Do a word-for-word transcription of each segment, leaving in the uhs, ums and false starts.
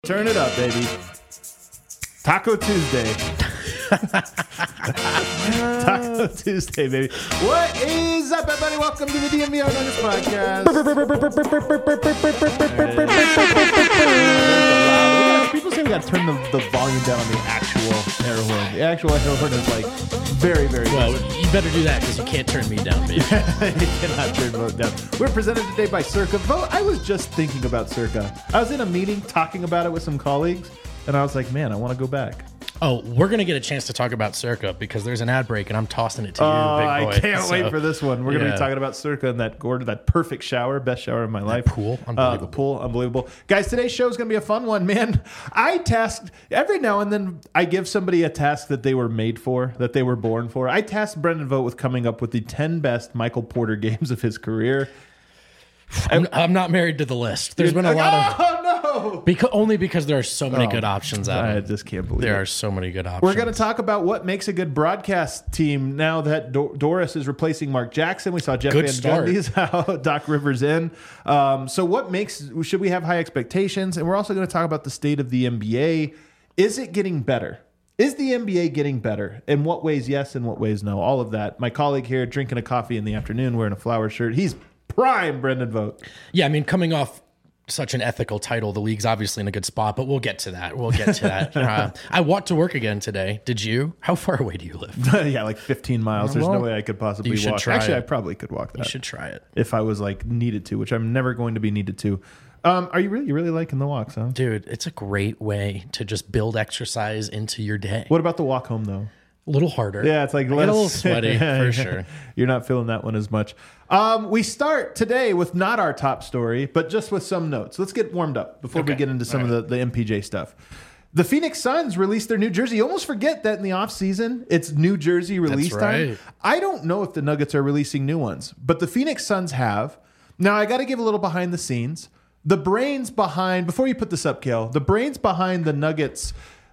Turn it up, baby. Taco Tuesday. Taco Tuesday, baby. What is up, everybody? Welcome to the D M V R Nuggets podcast. People say we got to turn the, the volume down on the actual air horn. The actual air horn is like very, very well. good. You better do that because you can't turn me down, baby. You cannot turn vote down. We're presented today by Circa. Vote. I was just thinking about Circa. I was in a meeting talking about it with some colleagues, and I was like, man, I want to go back. Oh, we're going to get a chance to talk about Circa because there's an ad break and I'm tossing it to you, oh, big boy. I can't so, wait for this one. We're going to yeah. be talking about Circa and that Gordon, that perfect shower, best shower of my life. That pool, unbelievable. Uh, the pool, unbelievable. Guys, today's show is going to be a fun one, man. I tasked, every now and then I give somebody a task that they were made for, that they were born for. I tasked Brendan Vogt with coming up with the ten best Michael Porter games of his career. I'm, I'm not married to the list. There's been a lot of... Oh, no! Because, only because there are so many Oh, good options out I there. just can't believe There it. are so many good options. We're going to talk about what makes a good broadcast team now that Do- Doris is replacing Mark Jackson. We saw Jeff Good Van start. Gundy's out, Doc Rivers in. Um, so what makes, should we have high expectations? And we're also going to talk about the state of the N B A. Is it getting better? Is the N B A getting better? In what ways yes, in what ways no? All of that. My colleague here drinking a coffee in the afternoon wearing a flower shirt. He's prime Brendan Vogt. Yeah, I mean, coming off such an ethical title, the league's obviously in a good spot, but we'll get to that. We'll get to that. uh, I walked to work again today. Did you? How far away do you live? Yeah, like fifteen miles. There's Well, no way I could possibly you should walk. try Actually, it. I probably could walk that. You should try it. If I was like needed to, which I'm never going to be needed to. Um, are you really, you really liking the walks, huh? Dude, it's a great way to just build exercise into your day. What about the walk home though? A little harder. Yeah, it's like I less, get a little sweaty Yeah, for yeah. sure. You're not feeling that one as much. Um, we start today with not our top story, but just with some notes. Let's get warmed up before we Okay. get into some All of the, the M P J stuff. The Phoenix Suns released their new jersey. You almost forget that in the offseason, it's new jersey release That's time. right. I don't know if the Nuggets are releasing new ones, but the Phoenix Suns have. Now, I got to give a little behind the scenes. The brains behind, before you put this up, Kale, the brains behind the Nuggets,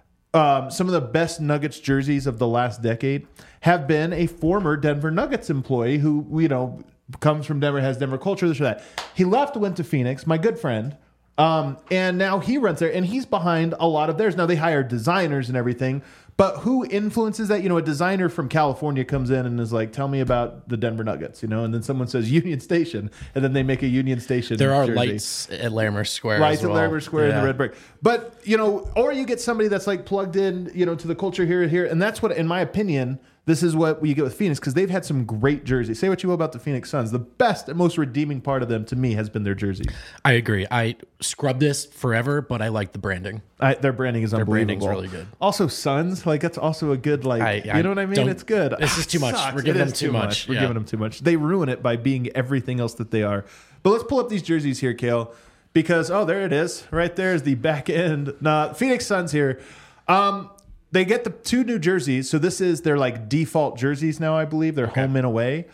um, some of the best Nuggets jerseys of the last decade have been a former Denver Nuggets employee who, you know, comes from Denver, has Denver culture, this or that. He left, went to Phoenix, my good friend, um, and now he runs there, and he's behind a lot of theirs. Now, they hire designers and everything, but who influences that? You know, a designer from California comes in and is like, tell me about the Denver Nuggets, you know, and then someone says Union Station, and then they make a Union Station There are jersey. lights at Larimer Square. Lights as at well. Larimer Square Yeah. and the Red Brick. But, you know, or you get somebody that's like plugged in, you know, to the culture here and here. And that's what, in my opinion, this is what you get with Phoenix because they've had some great jerseys. Say what you will about the Phoenix Suns. The best and most redeeming part of them to me has been their jerseys. I agree. I scrub this forever, but I like the branding. I, their branding is Their unbelievable. branding's really good. Also, Suns, like that's also a good, like, I- I you know what I mean? don't- It's good. this is Ah, too much. sucks. We're giving It them is too much. We're Yeah. giving them too much. They ruin it by being everything else that they are. But let's pull up these jerseys here, Kale, because, oh, there it is. Right there is the back end. Nah, Phoenix Suns here. Um, They get the two new jerseys. So this is their like default jerseys now, I believe. They're home and away.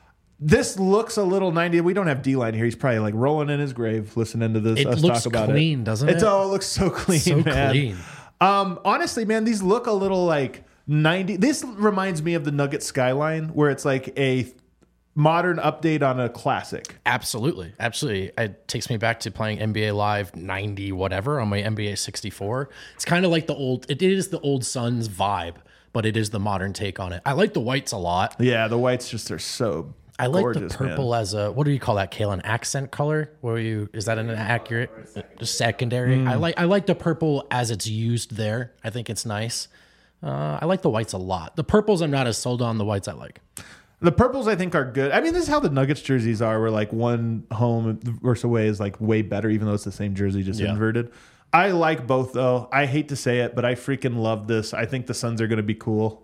This looks a little ninety. We don't have D-Line here. He's probably like rolling in his grave listening to this. It us looks talk about clean, it. doesn't It's, it? oh, it looks so clean, So man. clean. Um, honestly, man, these look a little like ninety. This reminds me of the Nugget skyline, where it's like a modern update on a classic. Absolutely. Absolutely. It takes me back to playing N B A Live ninety whatever on my N B A sixty-four. It's kind of like the old, it is the old Suns vibe, but it is the modern take on it. I like the whites a lot. Yeah, the whites just are so I like gorgeous, the purple man. as a, what do you call that, Kale? An accent color? Where you, is that an accurate, just secondary? Mm. I like, I like the purple as it's used there. I think it's nice. Uh, I like the whites a lot. The purples I'm not as sold on. The whites I like. The purples, I think, are good. I mean, this is how the Nuggets jerseys are, where like one home versus away is like way better, even though it's the same jersey, just Yeah. inverted. I like both, though. I hate to say it, but I freaking love this. I think the Suns are going to be cool.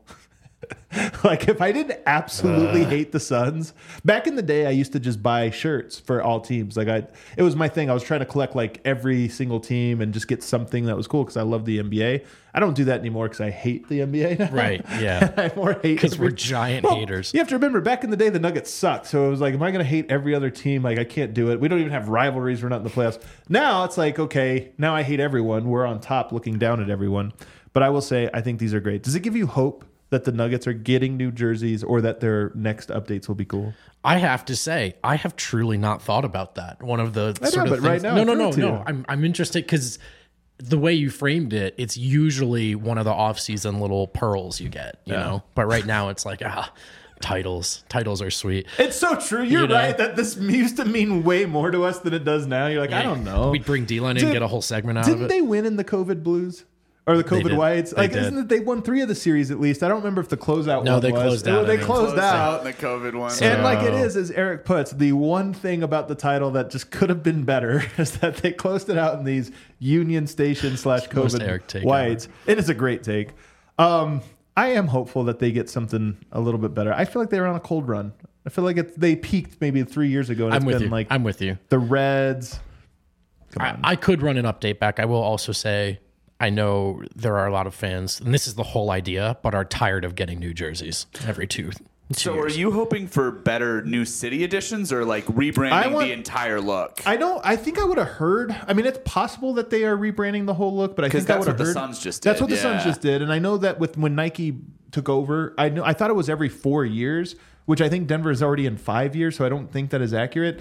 Like, if I didn't absolutely uh. hate the Suns, back in the day, I used to just buy shirts for all teams. Like, I, it was my thing. I was trying to collect like every single team and just get something that was cool because I love the N B A. I don't do that anymore because I hate the N B A now. Right, yeah. I more hate Because we're every- giant Well, haters. You have to remember, back in the day, the Nuggets sucked. So it was like, am I going to hate every other team? Like, I can't do it. We don't even have rivalries. We're not in the playoffs. Now it's like, okay, now I hate everyone. We're on top looking down at everyone. But I will say, I think these are great. Does it give you hope that the Nuggets are getting new jerseys or that their next updates will be cool? I have to say, I have truly not thought about that. One of the I sort know, of but right things- now no, I no, threw no, it to no. you. I'm I'm interested because the way you framed it, it's usually one of the off-season little pearls you get, you Yeah. know. But right now, it's like ah, titles. Titles are sweet. It's so true. You're You know? right that this used to mean way more to us than it does now. You're like, I don't know. We'd bring D-Line in and Did- get a whole segment out of Didn't it. they win in the COVID Blues? Or the COVID did. Whites? They Like, did. isn't it they won three of the series at least? I don't remember if the closeout No, one they was. closed Oh, out, They I think. closed, Closed out. out in the COVID one. And like it So- is, as Eric puts, the one thing about the title that just could have been better is that they closed it out in these Union Station slash Most Eric COVID take Whites. It is a great take. Um, I am hopeful that they get something a little bit better. I feel like they were on a cold run. I feel like it, they peaked maybe three years ago. And I'm it's with been you. like I'm with you. the Reds. Come I, on. I could run an update back. I will also say I know there are a lot of fans, and this is the whole idea, but are tired of getting new jerseys every two. two So years. are you hoping for better new city editions or like rebranding I want- the entire look? I don't. I think I would have heard. I mean, it's possible that they are rebranding the whole look, but I 'Cause think I that's would have what the heard. Suns just That's did, what the Suns yeah. just did, and I know that with when Nike took over, I know I thought it was every four years, which I think Denver is already in five years, so I don't think that is accurate.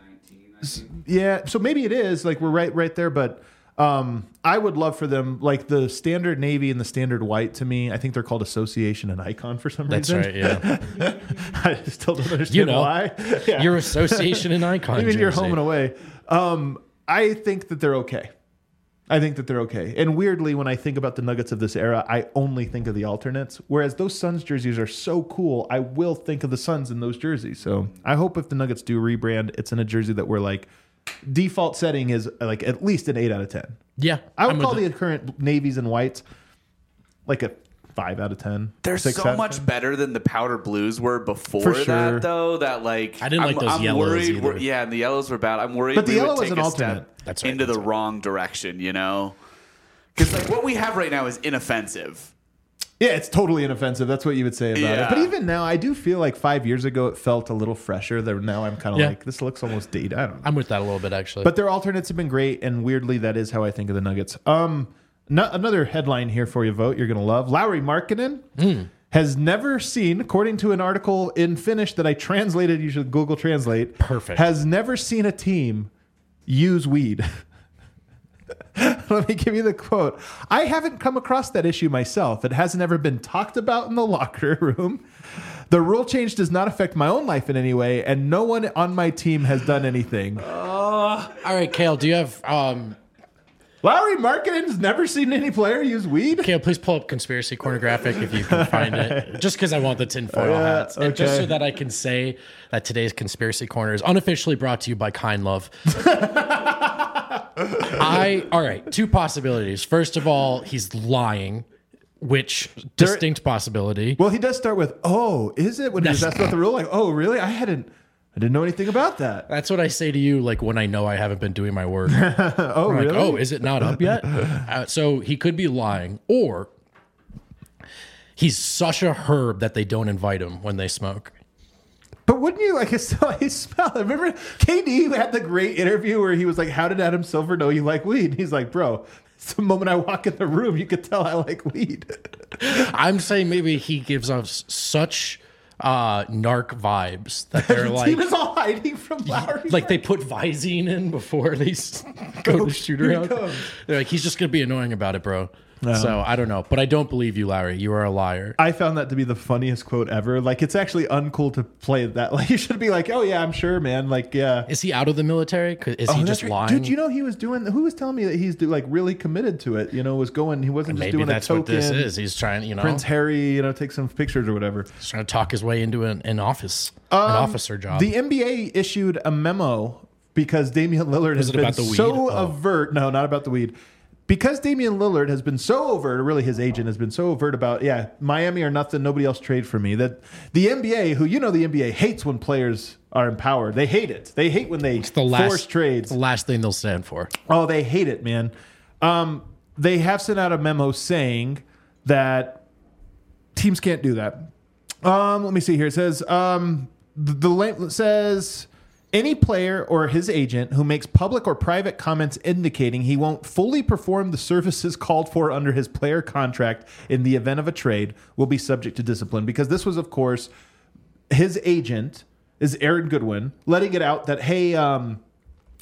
S- Yeah, so maybe it is. Like we're right, right there, but. Um, I would love for them, like the standard navy and the standard white. To me, I think they're called association and icon for some That's reason. right, yeah. I still don't understand You know, why. Yeah. Your association and icon. Even your jersey. home and away. Um, I think that they're okay. I think that they're okay. And weirdly, when I think about the Nuggets of this era, I only think of the alternates. Whereas those Suns jerseys are so cool, I will think of the Suns in those jerseys. So I hope if the Nuggets do rebrand, it's in a jersey that we're like, default setting is like at least an eight out of ten. Yeah. I would I'm call with the current navies and whites like a five out of ten. They're six out so of much ten. better than the powder blues were before For sure. that, though. That like I didn't like I'm, those I'm yellows worried either. we're- Yeah, and the yellows were bad. I'm worried. But the we yellow would was take an a step alternate. That's right, into that's the right. wrong direction. You know, because like what we have right now is inoffensive. Yeah, it's totally inoffensive. That's what you would say about Yeah. it. But even now, I do feel like five years ago it felt a little fresher. There now I'm kind of Yeah. like this looks almost dated. I don't know. I'm with that a little bit, actually. But their alternates have been great, and weirdly, that is how I think of the Nuggets. Um, no, another headline here for you, vote you're gonna love. Lowry Markkinen Hmm. has never seen, according to an article in Finnish that I translated. You should Google Translate. Perfect. Has never seen a team use weed. Let me give you the quote. I haven't come across that issue myself. It hasn't ever been talked about in the locker room. The rule change does not affect my own life in any way, and no one on my team has done anything. All right, Kale, do you have um Lowry Markkinen's never seen any player use weed? Kale, please pull up Conspiracy Corner graphic if you can find it. Just because I want the tinfoil Yeah, hats. And just okay. so that I can say that today's Conspiracy Corner is unofficially brought to you by Kind Love. I all right, two possibilities. First of all, he's lying, which distinct possibility. Well, he does start with, oh, is it? When he was That's- asked about the rule, like, oh, really? I hadn't, I didn't know anything about that. That's what I say to you, like when I know I haven't been doing my work. Oh, I'm really? like, oh, is it not up yet? Uh, so he could be lying, or he's such a herb that they don't invite him when they smoke. But wouldn't you like I smell it? Remember K D had the great interview where he was like, how did Adam Silver know you like weed? And he's like, bro, it's the moment I walk in the room, you could tell I like weed. I'm saying maybe he gives us such uh, narc vibes that they're The like, team is all hiding from Lowry. like they put Visine in before they s- go to shoot here he around. comes. They're like, he's just gonna be annoying about it, bro. So I don't know, but I don't believe you, Larry. You are a liar. I found that to be the funniest quote ever. Like, it's actually uncool to play that. Like, you should be like, oh, yeah, I'm sure, man. Like, yeah. Is he out of the military? 'Cause- Is Oh, he that's just right. lying? Dude, you know, he was doing, who was telling me that he's like really committed to it? You know, was going, he wasn't just Maybe doing that's a what token. this is. He's trying, you know, Prince Harry, you know, take some pictures or whatever. he's trying to talk his way into an, an office, an officer job. Um, The N B A issued a memo because Damian Lillard has it been about the weed? so Oh. overt. No, not about the weed. Because Damian Lillard has been so overt, or really his agent has been so overt about, yeah, Miami or nothing, nobody else trade for me. That the N B A, who you know the N B A hates when players are in power. They hate it. They hate when they the last force trades. The last thing they'll stand for. Oh, they hate it, man. Um, they have sent out a memo saying that teams can't do that. Um, let me see here. It says um, the, the link says any player or his agent who makes public or private comments indicating he won't fully perform the services called for under his player contract in the event of a trade will be subject to discipline. Because this was, of course, his agent is Aaron Goodwin letting it out that, hey, um,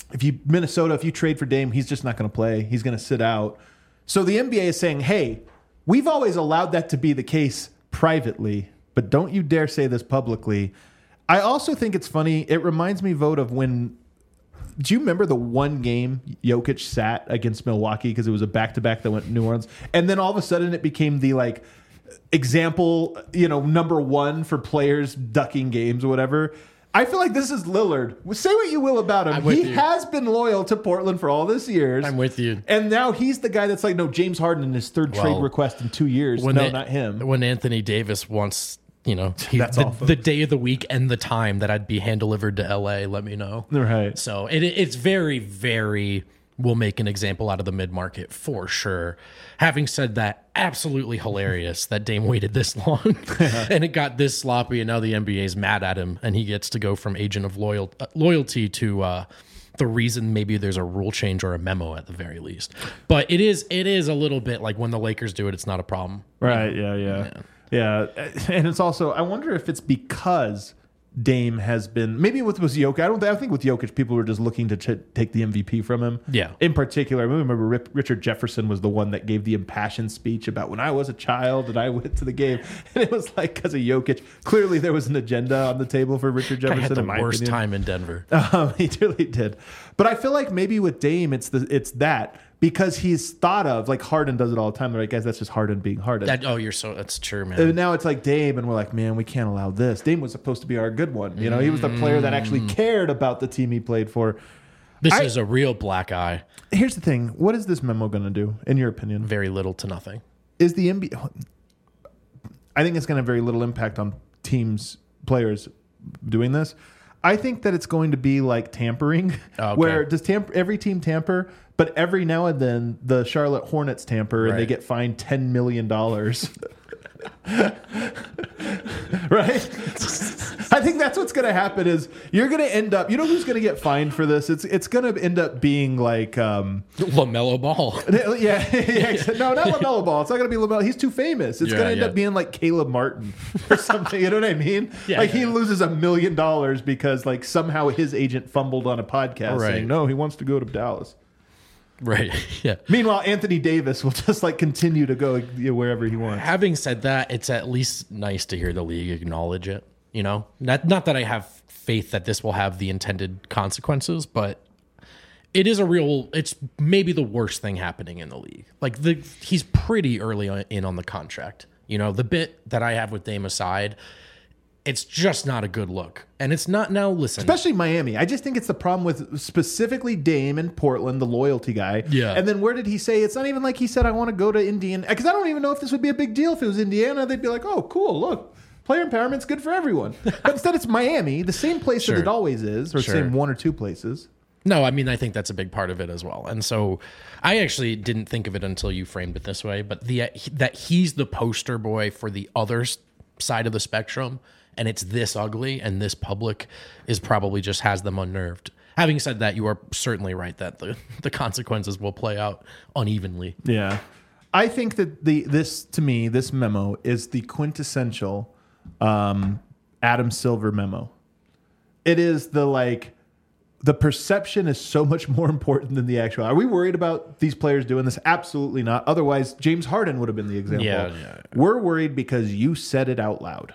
if you Minnesota, if you trade for Dame, he's just not going to play. He's going to sit out. So the N B A is saying, hey, we've always allowed that to be the case privately, but don't you dare say this publicly. I also think it's funny. It reminds me, Vote, of when. Do you remember the one game Jokic sat against Milwaukee because it was a back-to-back that went to New Orleans? And then all of a sudden it became the like example, you know, number one for players ducking games or whatever. I feel like this is Lillard. Say what you will about him. He you. has been loyal to Portland for all this years. I'm with you. And now he's the guy that's like, no, James Harden in his third Well, trade request in two years. No, they- not him. When Anthony Davis wants, you know, he, That's the, all, folks. the day of the week and the time that I'd be hand delivered to L A, let me know. Right. So it, it's very, very, we'll make an example out of the mid market for sure. Having said that, absolutely hilarious that Dame waited this long and it got this sloppy, and now the N B A's mad at him, and he gets to go from agent of loyal, uh, loyalty to uh, the reason maybe there's a rule change or a memo at the very least. But it is it is a little bit like when the Lakers do it, it's not a problem. Right. Yeah. Yeah. Yeah. And it's also, I wonder if it's because Dame has been, maybe with was Jokic. I don't. I think with Jokic, people were just looking to ch- take the M V P from him. Yeah. In particular, I remember Rip, Richard Jefferson was the one that gave the impassioned speech about when I was a child and I went to the game, and it was like because of Jokic. Clearly, there was an agenda on the table for Richard I Jefferson. had the in my worst opinion. time in Denver. Um, he really did. But I feel like maybe with Dame, it's the it's that because he's thought of like Harden does it all the time. They're like, guys, that's just Harden being Harden. That, oh, you're so that's true, man. And now it's like Dame, and we're like, man, we can't allow this. Dame was supposed to be our good one. You know, he was the player that actually cared about the team he played for. This I- is a real black eye. Here's the thing: what is this memo going to do, in your opinion? Very little to nothing. Is the N B A? I think it's going to have very little impact on teams, players doing this. I think that it's going to be like tampering, Okay. where does tamper every team tamper, but every now and then the Charlotte Hornets tamper and they Right. get fined ten million dollars. Right? I think that's what's going to happen is you're going to end up, you know who's going to get fined for this? It's it's going to end up being like, um, LaMelo Ball. yeah, yeah, no, not LaMelo Ball. It's not going to be LaMelo. He's too famous. It's Yeah, going to end yeah. up being like Caleb Martin or something. You know what I mean? Yeah, like yeah, he yeah. loses a million dollars because like somehow his agent fumbled on a podcast Right. saying, no, he wants to go to Dallas. Right. Yeah. Meanwhile, Anthony Davis will just like continue to go you know, wherever he wants. Having said that, it's at least nice to hear the league acknowledge it. You know, not not that I have faith that this will have the intended consequences, but it is a real. It's maybe the worst thing happening in the league. Like the he's pretty early on, in on the contract. You know, the bit that I have with Dame aside, it's just not a good look, and it's not now. Listen, Especially Miami. I just think it's the problem with specifically Dame in Portland, the loyalty guy. Yeah. And then where did he say? It's not even like he said, I want to go to Indiana. Because I don't even know if this would be a big deal. If it was Indiana, they'd be like, oh, cool, look. Player empowerment's good for everyone. But instead it's Miami, the same place Sure. that it always is, or Sure. same one or two places. No, I mean, I think that's a big part of it as well. And so I actually didn't think of it until you framed it this way, but the that he's the poster boy for the other s- side of the spectrum, and it's this ugly and this public is probably just has them unnerved. Having said that, you are certainly right that the, the consequences will play out unevenly. Yeah. I think that the this, to me, this memo is the quintessential um, Adam Silver memo. It is the like, the perception is so much more important than the actual. Are we worried about these players doing this? Absolutely not. Otherwise, James Harden would have been the example. Yeah, yeah. We're worried because you said it out loud.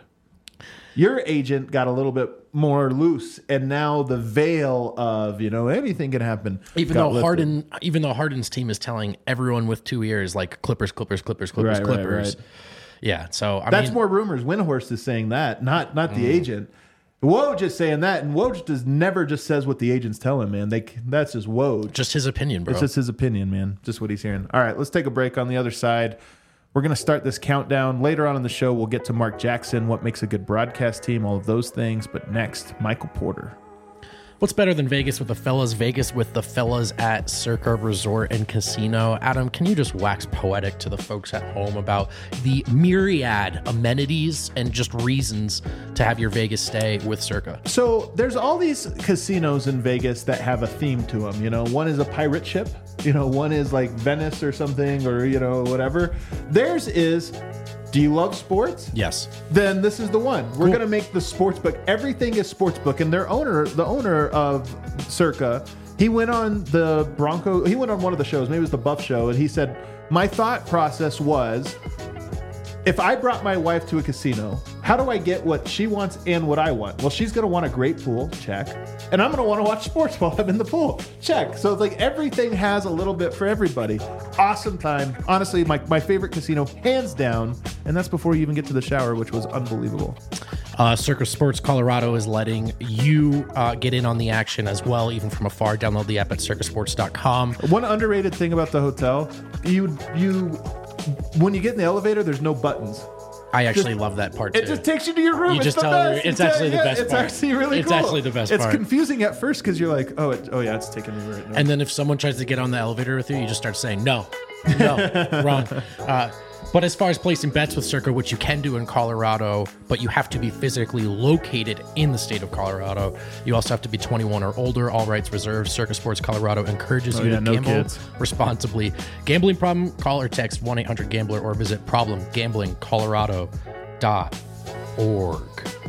Your agent got a little bit more loose, and now the veil of, you know, anything can happen. Even got though lifted. Harden, even though Harden's team is telling everyone with two ears like Clippers, Clippers, Clippers, Clippers, Right, right, Clippers. right. Yeah, so I That's mean, more rumors. Windhorst is saying that, not not Mm. the agent. Woj is saying that, and Woj does never just says what the agents tell him, man. They that's just Woj. just his opinion, bro. It's just his opinion, man. Just what he's hearing. All right, let's take a break. On the other side, we're going to start this countdown. Later on in the show, we'll get to Mark Jackson, what makes a good broadcast team, all of those things. But next, Michael Porter. What's better than Vegas with the fellas? Vegas with the fellas at Circa Resort and Casino. Adam, can you just wax poetic to the folks at home about the myriad amenities and just reasons to have your Vegas stay with Circa? So there's all these casinos in Vegas that have a theme to them. You know, one is a pirate ship. You know, one is like Venice or something, or, you know, whatever. Theirs is, do you love sports? Yes. Then this is the one. We're going to make the sports book. Everything is sports book. And their owner, the owner of Circa, He went on the Bronco. He went on one of the shows. Maybe it was the Buff Show, and he said, "My thought process was, if I brought my wife to a casino, how do I get what she wants and what I want? Well, she's going to want a great pool, check. And I'm going to want to watch sports while I'm in the pool, check. So it's like everything has a little bit for everybody. Awesome time. Honestly, my, my favorite casino, hands down. And that's before you even get to the shower, which was unbelievable. Uh, Circus Sports Colorado is letting you uh, get in on the action as well, even from afar. Download the app at circus sports dot com. One underrated thing about the hotel, you you when you get in the elevator, there's no buttons. I actually just love that part too. It just takes you to your room. You it's just the tell best. her it's You actually tell- the yeah, best it's part. actually really It's cool. actually the best it's part. It's confusing at first because you're like, oh, it, oh yeah, it's taking me right now. And then if someone tries to get on the elevator with you, you just start saying no, no, wrong. Uh, but as far as placing bets with Circa, which you can do in Colorado, but you have to be physically located in the state of Colorado. You also have to be twenty-one or older. All rights reserved. Circa Sports Colorado encourages Oh, you yeah, to no gamble kids. responsibly. Gambling problem? Call or text one eight hundred gambler or visit problem gambling colorado dot org.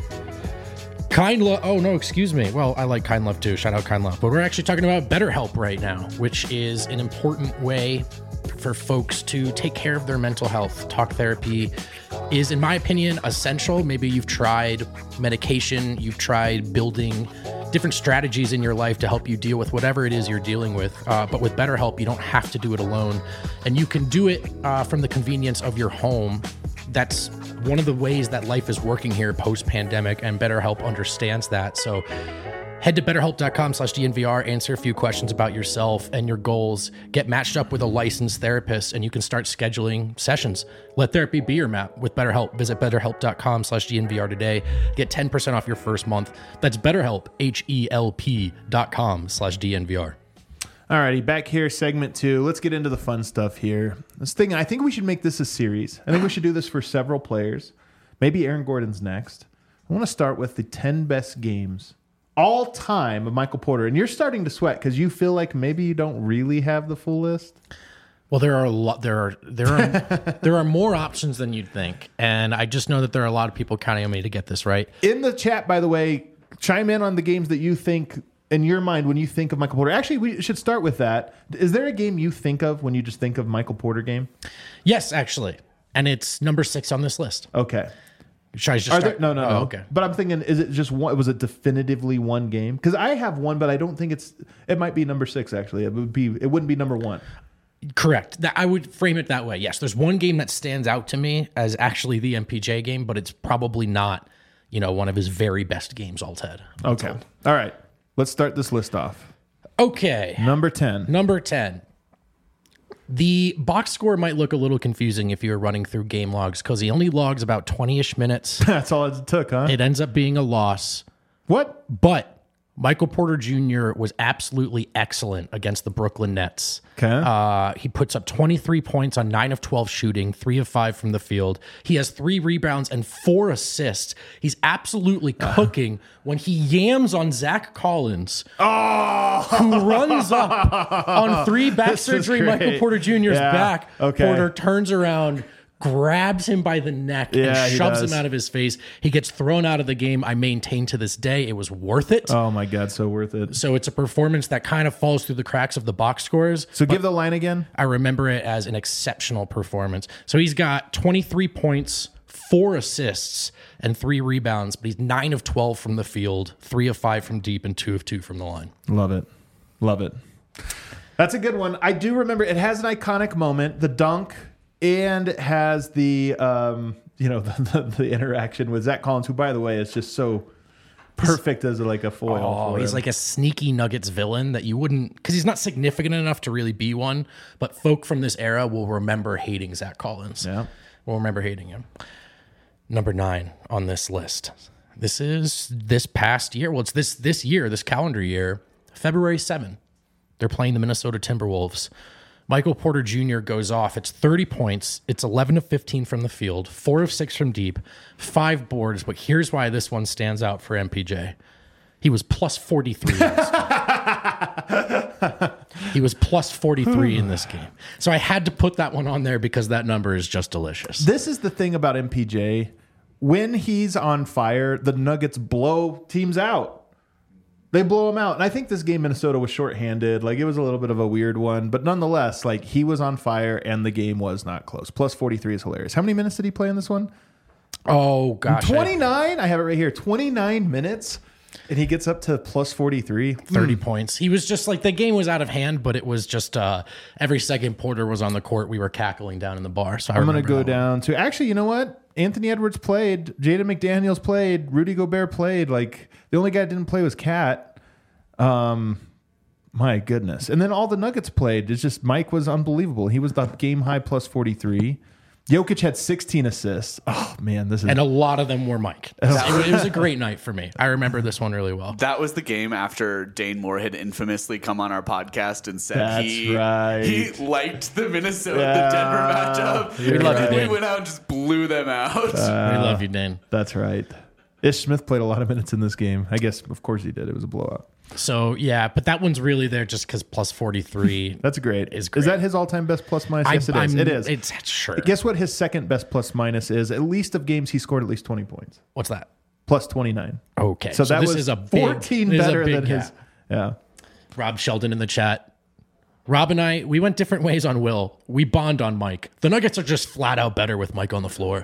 Kind Love. Oh, no, excuse me. Well, I like Kind Love too. Shout out Kind Love. But we're actually talking about BetterHelp right now, which is an important way for folks to take care of their mental health. Talk therapy is, in my opinion, essential. Maybe you've tried medication, you've tried building different strategies in your life to help you deal with whatever it is you're dealing with. Uh, but with BetterHelp, you don't have to do it alone. And you can do it uh, from the convenience of your home. That's one of the ways that life is working here post-pandemic, and BetterHelp understands that. So head to betterhelp.com slash DNVR, answer a few questions about yourself and your goals, get matched up with a licensed therapist, and you can start scheduling sessions. Let therapy be your map with BetterHelp. Visit betterhelp.com slash DNVR today. Get ten percent off your first month. That's BetterHelp, H-E-L-P dot com slash DNVR. Alrighty, back here, segment two. Let's get into the fun stuff here. This thing, I think we should make this a series. I think we should do this for several players. Maybe Aaron Gordon's next. I want to start with the ten best games all time of Michael Porter. And you're starting to sweat because you feel like maybe you don't really have the full list. Well, there are a lot. There are there are there are more options than you'd think, and I just know that there are a lot of people counting on me to get this right. In the chat, by the way, chime in on the games that you think in your mind when you think of Michael Porter. Actually, we should start with that. Is there a game you think of when you just think of Michael Porter game? Yes, actually, and it's number six on this list. Okay. Should I just Are start? there, no, no, Oh, no. okay. But I'm thinking, is it just one? Was it definitively one game? Because I have one, but I don't think it's. It might be number six. Actually, it would be. It wouldn't be number one. Correct. That I would frame it that way. Yes, there's one game that stands out to me as actually the M P J game, but it's probably not, you know, one of his very best games all Ted. Okay. All right. Let's start this list off. Okay. Number ten. Number ten. The box score might look a little confusing if you were running through game logs because he only logs about twenty-ish minutes. That's all it took, huh? It ends up being a loss. What? But Michael Porter Junior was absolutely excellent against the Brooklyn Nets. Okay. Uh, he puts up twenty-three points on nine of twelve shooting, three of five from the field. He has three rebounds and four assists. He's absolutely cooking uh. when he yams on Zach Collins, oh! who runs up on three back This is surgery great. Michael Porter Junior's Yeah. back. Okay. Porter turns around, grabs him by the neck, Yeah, and he shoves does. him out of his face. He gets thrown out of the game. I maintain to this day it was worth it. Oh my God, so worth it. So it's a performance that kind of falls through the cracks of the box scores. So give the line again. I remember it as an exceptional performance. So he's got twenty-three points, four assists, and three rebounds, but he's nine of twelve from the field, three of five from deep, and two of two from the line. Love it. Love it. That's a good one. I do remember it has an iconic moment, the dunk, and it has the um, you know, the, the, the interaction with Zach Collins, who, by the way, is just so perfect as like a foil. Oh, for he's him. like a sneaky Nuggets villain that you wouldn't, because he's not significant enough to really be one, but folk from this era will remember hating Zach Collins. Yeah. Will remember hating him. Number nine on this list. This is this past year. Well, it's this this year, this calendar year, February seventh. They're playing the Minnesota Timberwolves. Michael Porter Junior goes off. It's thirty points. It's eleven of fifteen from the field, four of six from deep, five boards. But here's why this one stands out for M P J. He was plus forty-three in this game. He was plus forty-three in this game. So I had to put that one on there because that number is just delicious. This is the thing about M P J. When he's on fire, the Nuggets blow teams out. They blow him out. And I think this game, Minnesota was shorthanded. Like, it was a little bit of a weird one. But nonetheless, like, he was on fire and the game was not close. Plus forty-three is hilarious. How many minutes did he play in this one? Oh, gosh. twenty-nine? I, I have it right here. twenty-nine minutes. And he gets up to plus forty-three. thirty mm. points. He was just like, the game was out of hand, but it was just uh, every second Porter was on the court, we were cackling down in the bar. So I I'm going to go one. down to, actually, you know what? Anthony Edwards played. Jaden McDaniels played. Rudy Gobert played. Like, the only guy that didn't play was Cat. Um, my goodness. And then all the Nuggets played. It's just Mike was unbelievable. He was the game high plus forty-three. Jokic had sixteen assists. Oh, man, this is... And a lot of them were Mike. It, it was a great night for me. I remember this one really well. That was the game after Dane Moore had infamously come on our podcast and said That's he right. he liked the Minnesota, Yeah. the Denver matchup. We love and you, we Dane. went out and just blew them out. Uh, we love you, Dane. That's right. Ish Smith played a lot of minutes in this game. I guess, of course, he did. It was a blowout. So, yeah, but that one's really there just because plus forty-three. That's great. Is great. Is that his all-time best plus minus? I, Yes, it is. I'm- It is. It's sure. Guess what his second best plus minus is? At least of games he scored at least twenty points. What's that? Plus twenty-nine. Okay. So, that this was is a big, fourteen this is a better big than his. gap. Yeah. Rob Sheldon in the chat. Rob and I, we went different ways on Will. We bond on Mike. The Nuggets are just flat out better with Mike on the floor.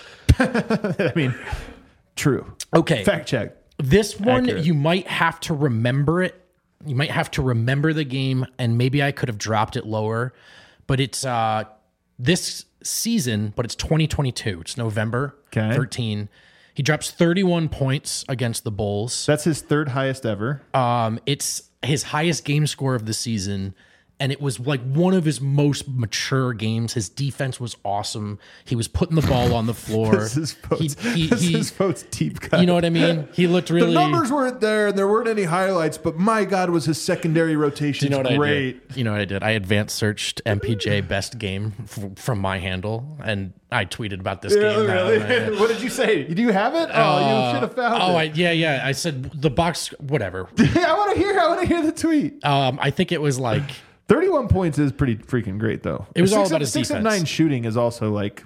I mean, true. Okay. Fact check. This one, Accurate. you might have to remember it. You might have to remember the game, and maybe I could have dropped it lower. But it's uh, this season, but it's twenty twenty-two. It's November Okay. thirteenth. He drops thirty-one points against the Bulls. That's his third highest ever. Um, it's his highest game score of the season, and it was like one of his most mature games. His defense was awesome. He was putting the ball on the floor. This is Votes. He- he- this he- is Votes deep cut. You know what I mean? He looked really. The numbers weren't there, and there weren't any highlights. But my God, was his secondary rotation You know what great? I did? You know what I did? I advanced searched M P J best game f- from my handle, and I tweeted about this Yeah, game. now, really? man. What did you say? Do you have it? Oh, you should have found Oh, it. I, yeah, yeah. I said the box, whatever. I want to hear. I want to hear the tweet. Um, I think it was like Thirty-one points is pretty freaking great, though. It was six all of- about his six defense. of nine shooting is also like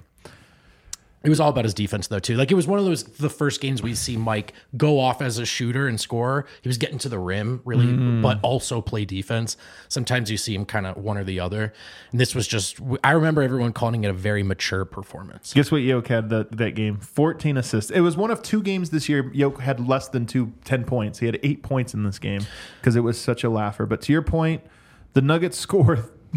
it was all about his defense though too. Like it was one of those the first games we see Mike go off as a shooter and scorer. He was getting to the rim really, Mm-hmm. but also play defense. Sometimes you see him kind of one or the other. And this was just I remember everyone calling it a very mature performance. Guess what Yoke had that, that game? fourteen assists. It was one of two games this year Yoke had less than two, ten points. He had eight points in this game because it was such a laugher. But to your point, the Nuggets score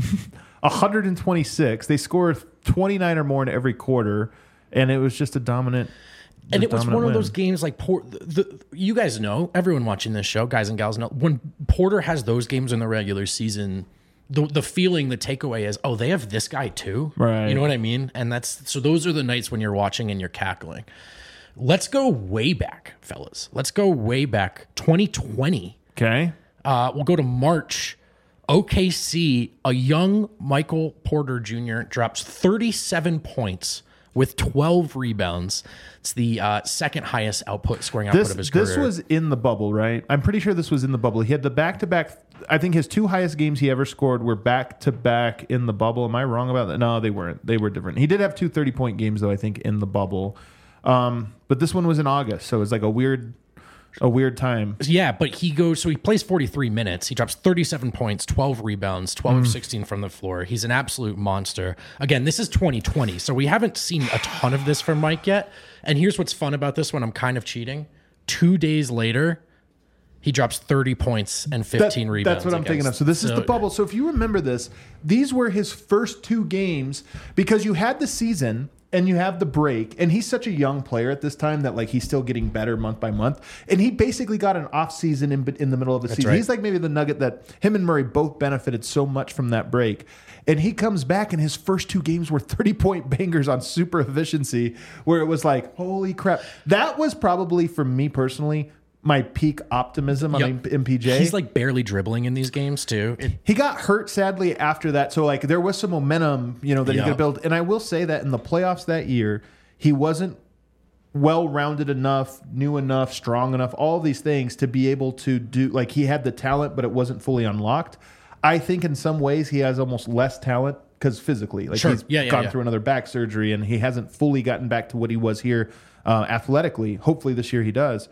one hundred twenty-six. They score twenty-nine or more in every quarter, and it was just a dominant And a it was dominant one of win. those games like Port. The, the, you guys know, everyone watching this show, guys and gals know, when Porter has those games in the regular season, the the feeling, the takeaway is, oh, they have this guy too, Right. You know what I mean? And that's so. Those are the nights when you're watching and you're cackling. Let's go way back, fellas. Let's go way back, twenty twenty. Okay. Uh, we'll go to March. O K C, a young Michael Porter Junior drops thirty-seven points with twelve rebounds. It's the uh, second highest output scoring output This of his this career. was in the bubble, right? I'm pretty sure this was in the bubble. He had the back to back. I think his two highest games he ever scored were back to back in the bubble. Am I wrong about that? No, they weren't. They were different. He did have two thirty point games though. I think in the bubble, um, but this one was in August, so it was like a weird, a weird time. Yeah, but he goes, so he plays forty-three minutes. He drops thirty-seven points, twelve rebounds, twelve of sixteen from the floor. He's an absolute monster. Again, this is twenty twenty, so we haven't seen a ton of this from Mike yet. And here's what's fun about this one. I'm kind of cheating. Two days later, he drops thirty points and fifteen That- rebounds. That's what I'm against- thinking of. So this is so- the bubble. So if you remember this, these were his first two games because you had the season and you have the break, and he's such a young player at this time that like he's still getting better month by month, and he basically got an off season in in the middle of the season. right. He's like maybe the nugget that him and Murray both benefited so much from that break. And he comes back, and his first two games were thirty-point bangers on super efficiency, where it was like, holy crap. That was probably, for me personally, my peak optimism on Yep. M P J. He's like barely dribbling in these games too. It- He got hurt sadly after that, so like there was some momentum, you know, that he Yeah. could build. And I will say that in the playoffs that year, he wasn't well-rounded enough, new enough, strong enough, all these things to be able to do. Like he had the talent, but it wasn't fully unlocked. I think in some ways he has almost less talent because physically, like Sure. he's Yeah, yeah, gone yeah. through another back surgery and he hasn't fully gotten back to what he was here uh, athletically. Hopefully this year he does.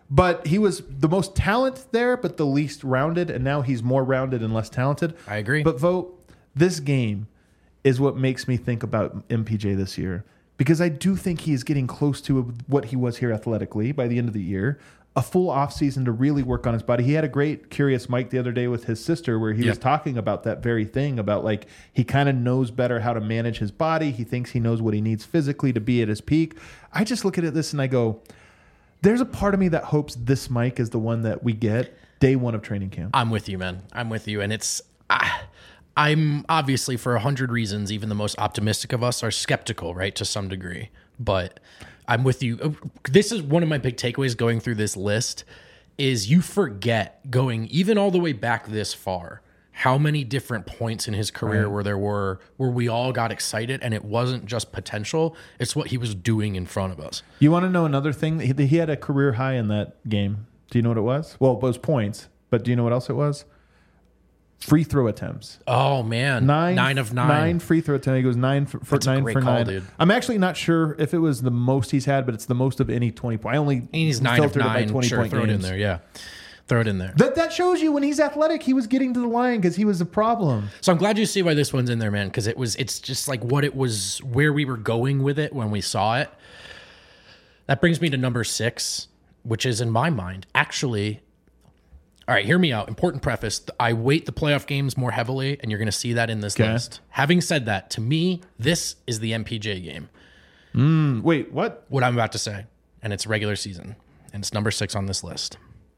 but he was the most talent there, but the least rounded, and now he's more rounded and less talented. I agree. But vote, this game is what makes me think about M P J this year, because I do think he is getting close to what he was here athletically by the end of the year. A full offseason to really work on his body. He had a great Curious Mike the other day with his sister where he Yep. was talking about that very thing, about like he kind of knows better how to manage his body. He thinks he knows what he needs physically to be at his peak. I just look at this and I go, there's a part of me that hopes this Mike is the one that we get day one of training camp. I'm with you, man. I'm with you. And it's, I, I'm obviously, for a hundred reasons, even the most optimistic of us are skeptical, right, to some degree. But I'm with you. This is one of my big takeaways going through this list is you forget going even all the way back this far, how many different points in his career Right. where there were, where we all got excited and it wasn't just potential. It's what he was doing in front of us. You want to know another thing? He, he had a career high in that game. Do you know what it was? Well, it was points, but do you know what else it was? Free throw attempts. Oh man. Nine, nine of nine. Nine free throw attempts. He goes nine for, for That's a nine great for call, nine. dude. I'm actually not sure if it was the most he's had, but it's the most of any twenty point. I only He's nine of filtered it by nine. twenty Sure, point throw it in games. there. Yeah. Throw it in there. That that shows you when he's athletic, he was getting to the line because he was a problem. So I'm glad you see why this one's in there, man, because it was it's just like what it was, where we were going with it when we saw it. That brings me to number six, which is in my mind, actually. All right, hear me out. Important preface. I weight the playoff games more heavily, and you're going to see that in this Okay. list. Having said that, to me, this is the M P J game, Mm, wait, what? what I'm about to say, and it's regular season, and it's number six on this list.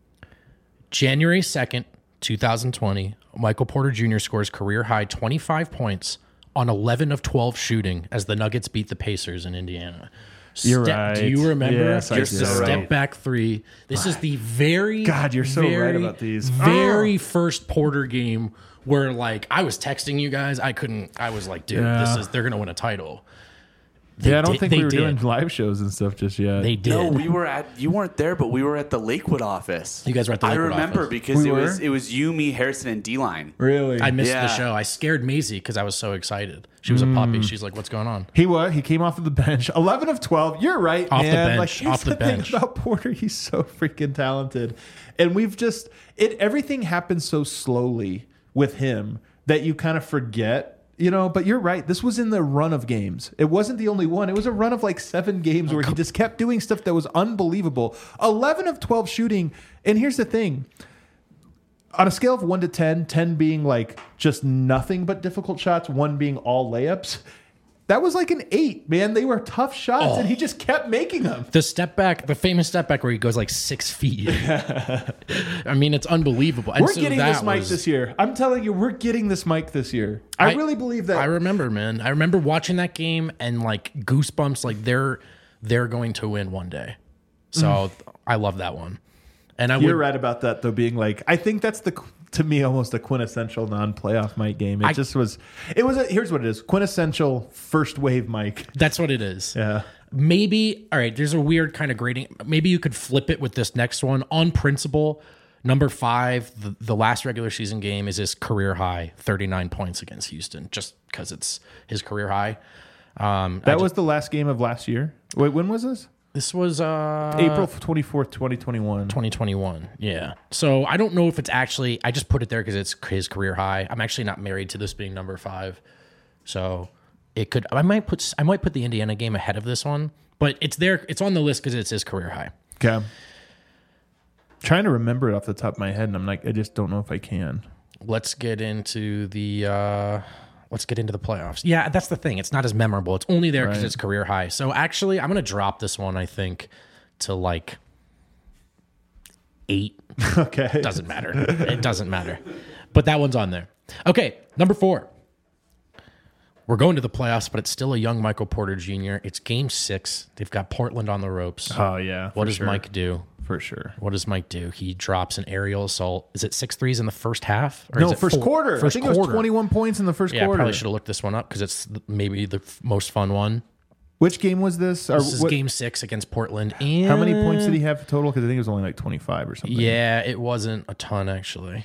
January second, twenty twenty, Michael Porter Junior scores career high twenty-five points on eleven of twelve shooting as the Nuggets beat the Pacers in Indiana. You're Step- right. Do you remember? Yes, I You're do. the so step right. back three. This is the very God, you're so right very, about these. Very first Porter game where like I was texting you guys. I couldn't. I was like, dude, Yeah. this is they're gonna win a title. They Yeah, I don't did- think they we were did. doing live shows and stuff just yet. They did. No, we were at. You weren't there, but we were at the Lakewood office. You guys were at the I Lakewood remember office. because We it were? was it was you, me, Harrison, and D-Line. really? I missed Yeah. the show. I scared Maisie because I was so excited. She was a Mm. puppy. She's like, "What's going on?" He was. He came off of the bench. eleven of twelve. You're right, Off the man. bench, Like, here's off the the thing bench. about Porter. He's so freaking talented, and we've just it. Everything happens so slowly with him that you kind of forget. You know, but you're right. This was in the run of games. It wasn't the only one. It was a run of like seven games where he just kept doing stuff that was unbelievable. eleven of twelve shooting. And here's the thing. On a scale of one to ten, ten being like just nothing but difficult shots, one being all layups, that was like an eight, man. They were tough shots, and he just kept making them. The step back, the famous step back where he goes like six feet. I mean, it's unbelievable. And We're so getting that this mic was- this year. I'm telling you, we're getting this mic this year. I, I- really believe that. I remember, man. I remember watching that game and like goosebumps. Like they're they're going to win one day. So I love that one. And I You're would right about that, though, being like, I think that's the, to me, almost a quintessential non-playoff mic game. It I- just was, it was, a, here's what it is, quintessential first wave mic. That's what it is. Yeah. Maybe, all right, there's a weird kind of grading. Maybe you could flip it with this next one. On principle, number five, the, the last regular season game is his career high, thirty-nine points against Houston, just because it's his career high. Um, I That ju- was the last game of last year. Wait, when was this? this was uh, April twenty-fourth, twenty twenty-one. twenty twenty-one. Yeah. So I don't know if it's actually, I just put it there because it's his career high. I'm actually not married to this being number five. So it could, I might put, I might put the Indiana game ahead of this one, but it's there. It's on the list because it's his career high. Okay. Trying to remember it off the top of my head, and I'm like, I just don't know if I can. Let's get into the, uh, let's get into the playoffs. Yeah, that's the thing. It's not as memorable. It's only there because Right. it's career high. So actually, I'm going to drop this one, I think, to like eight. Okay. Doesn't matter. It doesn't matter. But that one's on there. Okay, number four. We're going to the playoffs, but it's still a young Michael Porter Junior It's game six. They've got Portland on the ropes. Oh, yeah. what for does sure. Mike do? For sure. What does Mike do? He drops an aerial assault. Is it six threes in the first half? Or No, is it first four- quarter. First I think it was quarter. twenty-one points in the first Yeah, I quarter. probably should have looked this one up because it's th- maybe the f- most fun one. Which game was this? Or This is what- game six against Portland. And How many points did he have total? Because I think it was only like twenty-five or something. Yeah, it wasn't a ton actually.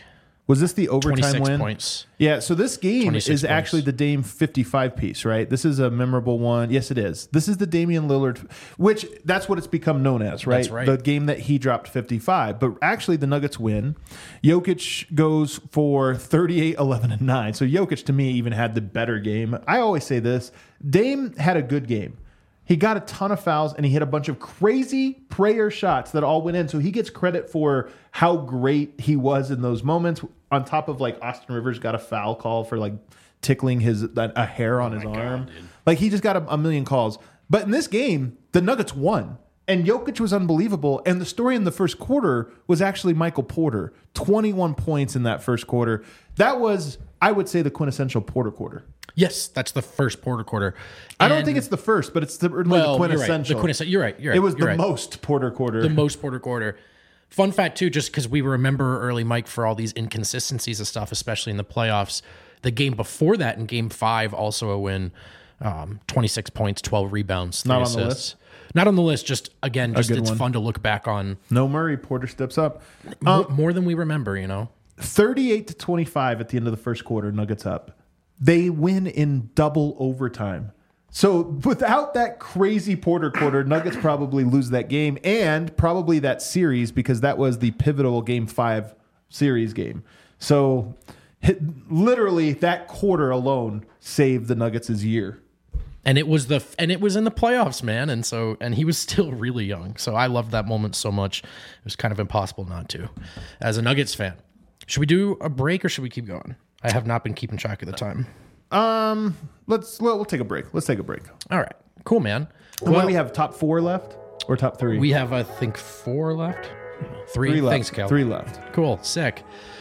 Was this the overtime twenty-six win? points. Yeah, so this game twenty-six is points. actually the Dame fifty-five piece, right? This is a memorable one. Yes, it is. This is the Damian Lillard, which that's what it's become known as, right? That's right. The game that he dropped fifty-five. But actually, the Nuggets win. Jokic goes for thirty-eight, eleven, and nine. So Jokic, to me, even had the better game. I always say this. Dame had a good game. He got a ton of fouls, and he hit a bunch of crazy prayer shots that all went in. So he gets credit for how great he was in those moments. On top of, like, Austin Rivers got a foul call for, like, tickling his a hair on his arm. Like, he just got a, a million calls. But in this game, the Nuggets won. And Jokic was unbelievable. And the story in the first quarter was actually Michael Porter. twenty-one points in that first quarter. That was, I would say, the quintessential Porter quarter. Yes, that's the first Porter quarter. I don't And- think it's the first, but it's the, really well, the you're right. quintessential. The quintessential. You're right. You're right. It was you're the right. most Porter quarter. the most Porter quarter. Fun fact too, just because we remember early Mike for all these inconsistencies of stuff, especially in the playoffs. The game before that, in Game Five, also a win. Um, twenty-six points, twelve rebounds, three Not on assists. the list? Not on the list. Just again, just good it's one. fun to look back on. No Murray. Porter steps up. Mo- more than we remember. You know. thirty-eight to twenty-five at the end of the first quarter, Nuggets up. They win in double overtime. So without that crazy Porter quarter, Nuggets probably lose that game and probably that series because that was the pivotal game five series game. So hit, literally that quarter alone saved the Nuggets' year. And it was the and it was in the playoffs, man. And so and he was still really young. So I loved that moment so much. It was kind of impossible not to. As a Nuggets fan, should we do a break or should we keep going? I have not been keeping track of the time. Um, let's we'll, we'll take a break. Let's take a break. All right, cool, man. And what do we have? Top four left or top three? We have, I think, four left. Three. three left. Thanks, Cal. Three left. Cool. Sick.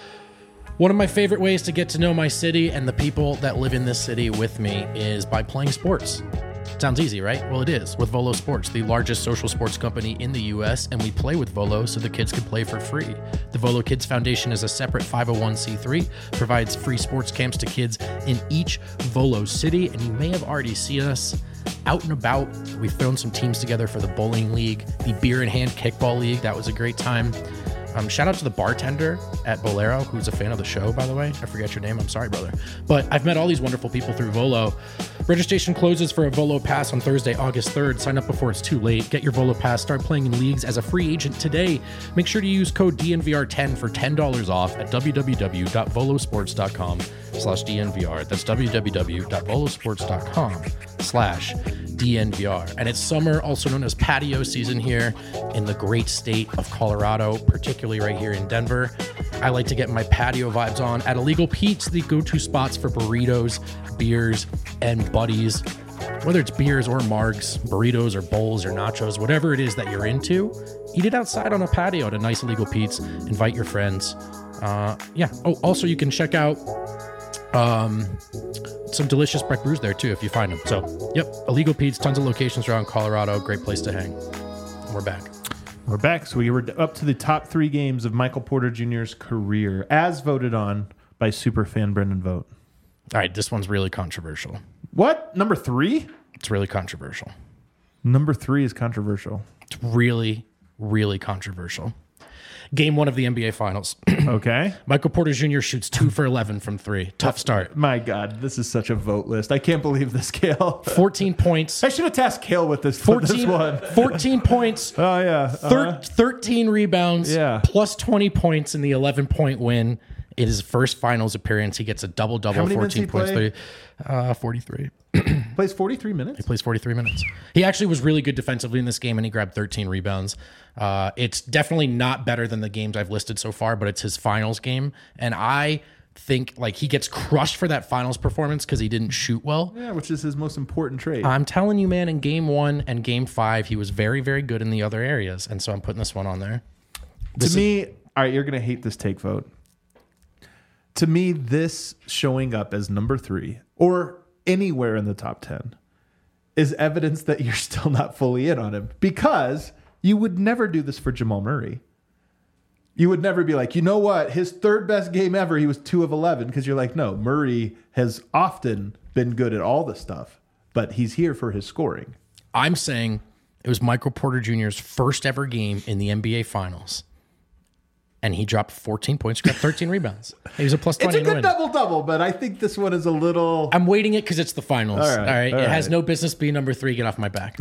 One of my favorite ways to get to know my city and the people that live in this city with me is by playing sports. Sounds easy, right? Well, it is with Volo Sports, the largest social sports company in the U S, and we play with Volo so the kids can play for free. The Volo Kids Foundation is a separate five oh one c three, provides free sports camps to kids in each Volo city, and you may have already seen us out and about. We've thrown some teams together for the bowling league, the beer in hand kickball league. That was a great time. Um, shout out to the bartender at Bolero, who's a fan of the show, by the way. I forget your name. I'm sorry, brother. But I've met all these wonderful people through Volo. Registration closes for a Volo Pass on Thursday, August third. Sign up before it's too late. Get your Volo Pass. Start playing in leagues as a free agent today. Make sure to use code D N V R ten for ten dollars off at www.volosports.com slash DNVR. That's www.volosports.com slash DNVR. And it's summer, also known as patio season here in the great state of Colorado, particularly right here in Denver. I like to get my patio vibes on at Illegal Pete's, the go-to spots for burritos, beers, and buddies. Whether it's beers or margs, burritos or bowls or nachos, whatever it is that you're into, eat it outside on a patio at a nice Illegal Pete's. Invite your friends. Uh, yeah. Oh, also you can check out um, some delicious Breck brews there too if you find them. So, yep, Illegal Pete's, tons of locations around Colorado. Great place to hang. We're back. We're back. So we were up to the top three games of Michael Porter Junior's career, as voted on by superfan Brendan Vogt. All right, this one's really controversial. What? Number three? It's really controversial. Number three is controversial. It's really, really controversial. Game one of the N B A Finals. Okay. Michael Porter Junior shoots two for eleven from three. Tough start. My God, this is such a vote list. I can't believe this, Kale. fourteen points. I should have tasked Kale with this, for this fourteen, one. fourteen points. Oh, yeah. Thir- Uh-huh. thirteen rebounds. Yeah. Plus twenty points in the eleven-point win. In his first finals appearance, he gets a double-double, How many minutes fourteen he points. play? thirty, uh, forty-three. Plays forty-three minutes? He plays forty-three minutes. He actually was really good defensively in this game, and he grabbed thirteen rebounds. Uh, it's definitely not better than the games I've listed so far, but it's his finals game. And I think like he gets crushed for that finals performance because he didn't shoot well. Yeah, which is his most important trait. I'm telling you, man, in game one and game five, he was very, very good in the other areas. And so I'm putting this one on there. This to me, all right, you're going to hate this take vote. To me, this showing up as number three or anywhere in the top ten is evidence that you're still not fully in on him, because you would never do this for Jamal Murray. You would never be like, you know what, his third best game ever, he was two of eleven, because you're like, no, Murray has often been good at all the stuff, but he's here for his scoring. I'm saying it was Michael Porter Junior's first ever game in the N B A Finals. and he dropped fourteen points, grabbed thirteen rebounds. He was a plus It's twenty. a good win. double double, but I think this one is a little. I'm waiting it because it's the finals. All All right, right, all it has right. no business being number three. Get off my back.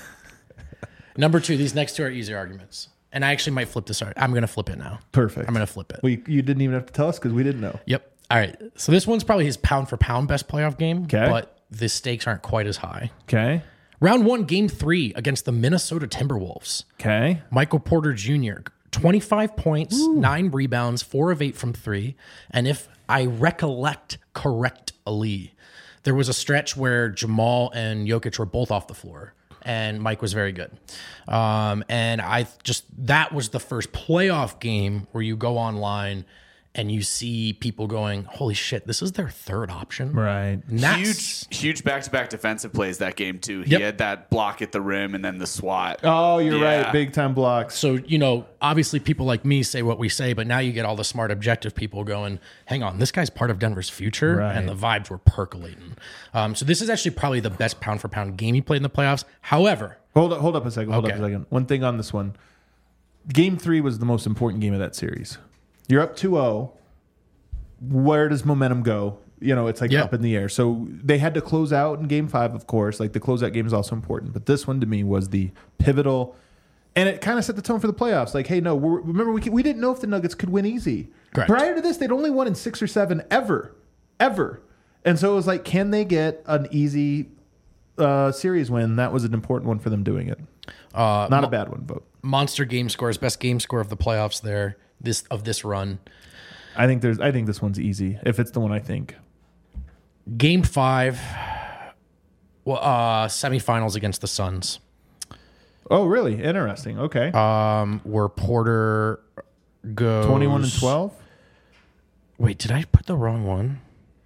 Number two. These next two are easier arguments, and I actually might flip this. Art. I'm going to flip it now. Perfect. I'm going to flip it. We, you didn't even have to tell us because we didn't know. Yep. All right. So this one's probably his pound for pound best playoff game, 'Kay. but the stakes aren't quite as high. Okay. Round one, game three against the Minnesota Timberwolves. Okay. Michael Porter Junior, twenty-five points, nine rebounds, four of eight from three. And if I recollect correctly, there was a stretch where Jamal and Jokic were both off the floor, and Mike was very good. Um, and I just, that was the first playoff game where you go online and you see people going, holy shit, this is their third option. Right. And that's- Huge, huge back-to-back defensive plays that game too. He Yep. had that block at the rim and then the swat. Oh, you're Yeah. right. Big time blocks. So, you know, obviously people like me say what we say, but now you get all the smart, objective people going, hang on, this guy's part of Denver's future. Right. And the vibes were percolating. Um, so this is actually probably the best pound for pound game he played in the playoffs. However, Hold up, hold up a second. Hold Okay. up a second. One thing on this one. Game three was the most important game of that series. You're up two oh. Where does momentum go? You know, it's like Yeah. up in the air. So they had to close out in game five, of course. Like the closeout game is also important. But this one to me was the pivotal. And it kind of set the tone for the playoffs. Like, hey, no, we're, remember, we, we didn't know if the Nuggets could win easy. Correct. Prior to this, they'd only won in six or seven ever. Ever. And so it was like, can they get an easy uh, series win? That was an important one for them doing it. uh, Not a bad one, but monster game scores, best game score of the playoffs there, this of this run. I think there's. I think this one's easy if it's the one I think. Game five, well, uh, semifinals against the Suns. Oh, really? Interesting. Okay. Um, where Porter goes Twenty-one and twelve. Wait, did I put the wrong one?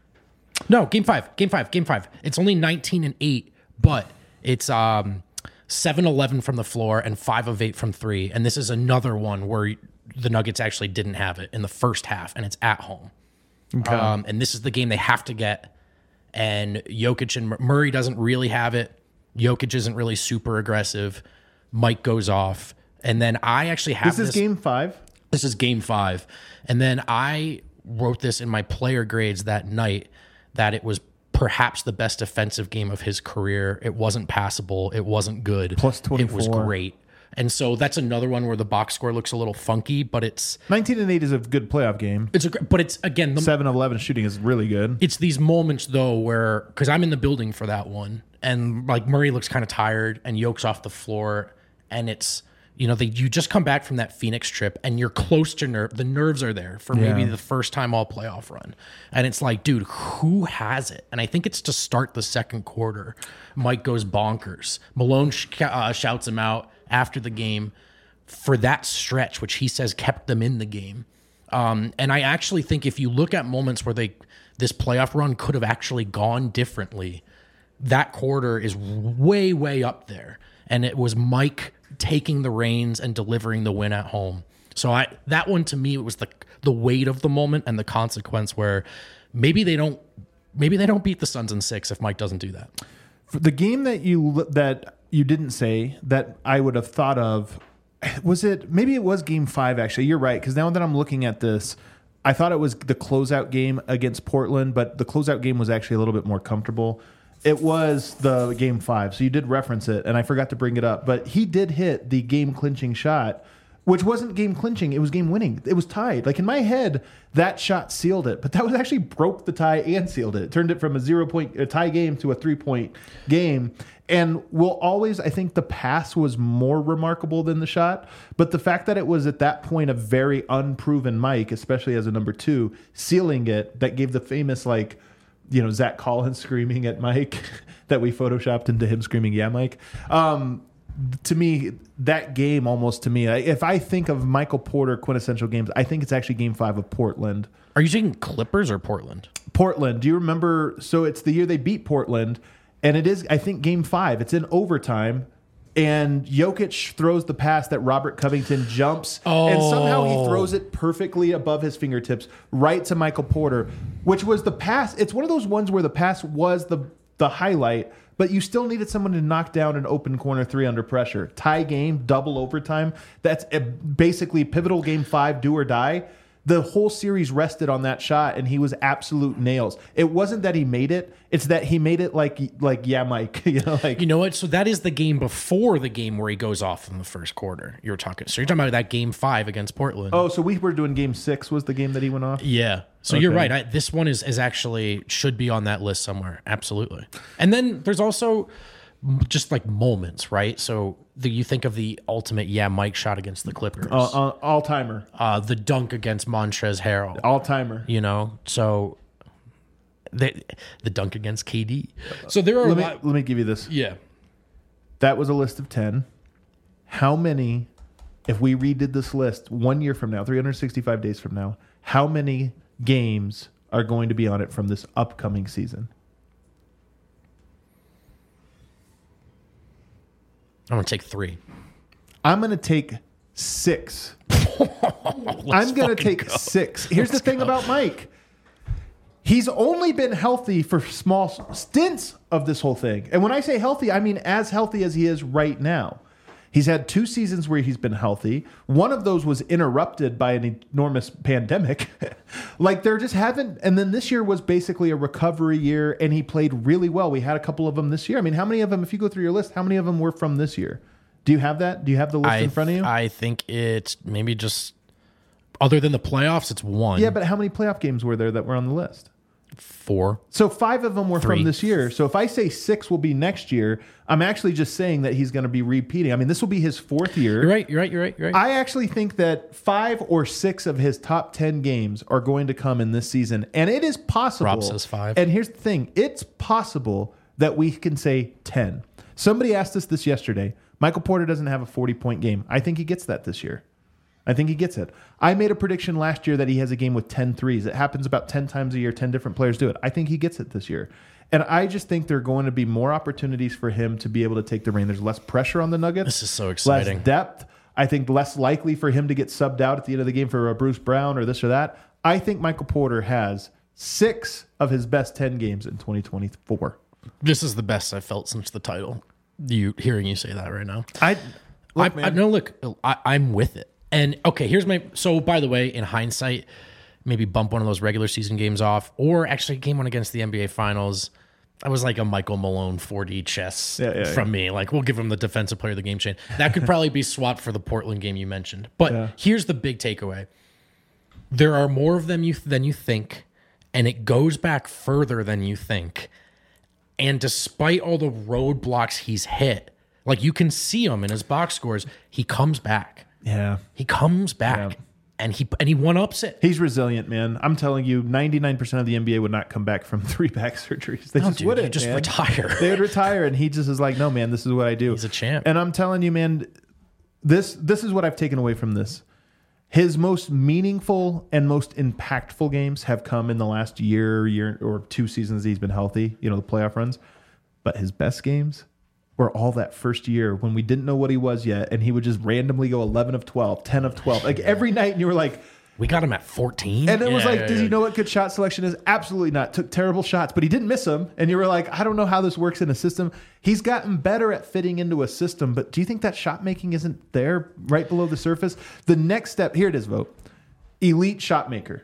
No, game five, game five, game five. It's only nineteen and eight, but it's um seven eleven from the floor and five of eight from three. And this is another one where the Nuggets actually didn't have it in the first half, and it's at home. Okay. Um, and this is the game they have to get. And Jokic and Murray doesn't really have it. Jokic isn't really super aggressive. Mike goes off. And then I actually have this is game five. This is game five. And then I wrote this in my player grades that night that it was perhaps the best defensive game of his career. It wasn't passable. It wasn't good. Plus It was twenty-four. great. And so that's another one where the box score looks a little funky, but it's Nineteen and eight is a good playoff game. it's a gr- but it's again the, Seven of eleven shooting is really good. it's these moments though where because I'm in the building for that one, and like Murray looks kind of tired and Yoke's off the floor, and it's you know they you just come back from that Phoenix trip and you're close to nerve the nerves are there for maybe Yeah. the first time all playoff run, and it's like dude who has it? And I think it's to start the second quarter. Mike goes bonkers. Malone sh- uh, shouts him out after the game for that stretch, which he says kept them in the game. Um, and I actually think if you look at moments where they this playoff run could have actually gone differently, that quarter is way, way up there. And it was Mike taking the reins and delivering the win at home. So I that one to me it was the the weight of the moment and the consequence where maybe they don't maybe they don't beat the Suns in six if Mike doesn't do that. For the game that you that you didn't say that I would have thought of, was it maybe it was game five actually. You're right, because now that I'm looking at this, I thought it was the closeout game against Portland, but the closeout game was actually a little bit more comfortable. It was the game five, so you did reference it, and I forgot to bring it up. But he did hit the game clinching shot, which wasn't game clinching; it was game winning. It was tied. Like in my head, that shot sealed it, but that was actually broke the tie and sealed it. It turned it from a zero point a tie game to a three point game. And we'll always, I think the pass was more remarkable than the shot, but the fact that it was at that point a very unproven Mike, especially as a number two, sealing it, that gave the famous like, you know, Zach Collins screaming at Mike that we photoshopped into him screaming, "Yeah, Mike." Um, to me, that game almost to me, if I think of Michael Porter quintessential games, I think it's actually game five of Portland. Are you saying Clippers or Portland? Portland. Do you remember? So it's the year they beat Portland, and it is, I think, game five. It's in overtime, and Jokic throws the pass that Robert Covington jumps, and somehow he throws it perfectly above his fingertips right to Michael Porter, which was the pass. It's one of those ones where the pass was the the highlight, but you still needed someone to knock down an open corner three under pressure. Tie game, double overtime. That's a basically pivotal game five, do or die. The whole series rested on that shot, and he was absolute nails. It wasn't that he made it; it's that he made it like, like yeah, Mike. You know, like You know what? So that is the game before the game where he goes off in the first quarter. You were talking. So you're talking about that game five against Portland. oh, so we were doing game six was the game that he went off. Yeah. So you're Okay. right. I, this one is is actually should be on that list somewhere. Absolutely. And then there's also just like moments, right? So the, you think of the ultimate, yeah, Mike shot against the Clippers, Uh, uh, all timer, uh, the dunk against Montrezl Harrell, all timer. you know. So the the dunk against K D. So there are Let a me lot. let me give you this. Yeah. That was a list of ten. How many, if we redid this list one year from now, three hundred sixty-five days from now, how many games are going to be on it from this upcoming season? I'm gonna take three. I'm going to take six. I'm going to take go. six. Here's the thing about Mike. He's only been healthy for small stints of this whole thing. And when I say healthy, I mean as healthy as he is right now. He's had two seasons where he's been healthy. One of those was interrupted by an enormous pandemic. Like there just haven't. And then this year was basically a recovery year, and he played really well. We had a couple of them this year. I mean, how many of them, if you go through your list, how many of them were from this year? Do you have that? Do you have the list I, in front of you? I think it's maybe just other than the playoffs, it's one. Yeah, but how many playoff games were there that were on the list? four. So five of them were Three. from this year. So if I say six will be next year, I'm actually just saying that he's going to be repeating. I mean, this will be his fourth year. You're right. You're right. You're right. You're right. I actually think that five or six of his top ten games are going to come in this season. And it is possible. Rob says five. And here's the thing. It's possible that we can say ten. Somebody asked us this yesterday. Michael Porter doesn't have a forty-point game. I think he gets that this year. I think he gets it. I made a prediction last year that he has a game with ten threes. It happens about ten times a year. ten different players do it. I think he gets it this year. And I just think there are going to be more opportunities for him to be able to take the reign. There's less pressure on the Nuggets. This is so exciting. Less depth. I think less likely for him to get subbed out at the end of the game for a Bruce Brown or this or that. I think Michael Porter has six of his best ten games in twenty twenty-four. This is the best I've felt since the title. You hearing you say that right now. I, look, I, I man. no look. I, I'm with it. And okay, here's my. So by the way, in hindsight, maybe bump one of those regular season games off, or actually game one against the N B A Finals. I was like a Michael Malone four D chess Yeah, yeah, from me. Like we'll give him the defensive player of the game chain. That could probably be swapped for the Portland game you mentioned. But Yeah. here's the big takeaway: there are more of them you than you think, and it goes back further than you think. And despite all the roadblocks he's hit, like you can see him in his box scores, he comes back. Yeah. He comes back, Yeah. and he and he one ups it. He's resilient, man. I'm telling you, ninety-nine percent of the N B A would not come back from three back surgeries. They No, just dude, wouldn't. you just man. retire. They would retire, and he just is like, no, man, this is what I do. He's a champ. And I'm telling you, man, this this is what I've taken away from this. His most meaningful and most impactful games have come in the last year, year or two seasons that he's been healthy, you know, the playoff runs. But his best games were all that first year when we didn't know what he was yet, and he would just randomly go eleven of twelve, ten of twelve, like every night, and you were like, We got him at fourteen. and it was Yeah, like, yeah, does yeah. he know what good shot selection is? Absolutely not. Took terrible shots, but he didn't miss them. And you were like, I don't know how this works in a system. He's gotten better at fitting into a system, but do you think that shot making isn't there right below the surface? The next step, here it is, Vote. Elite shot maker,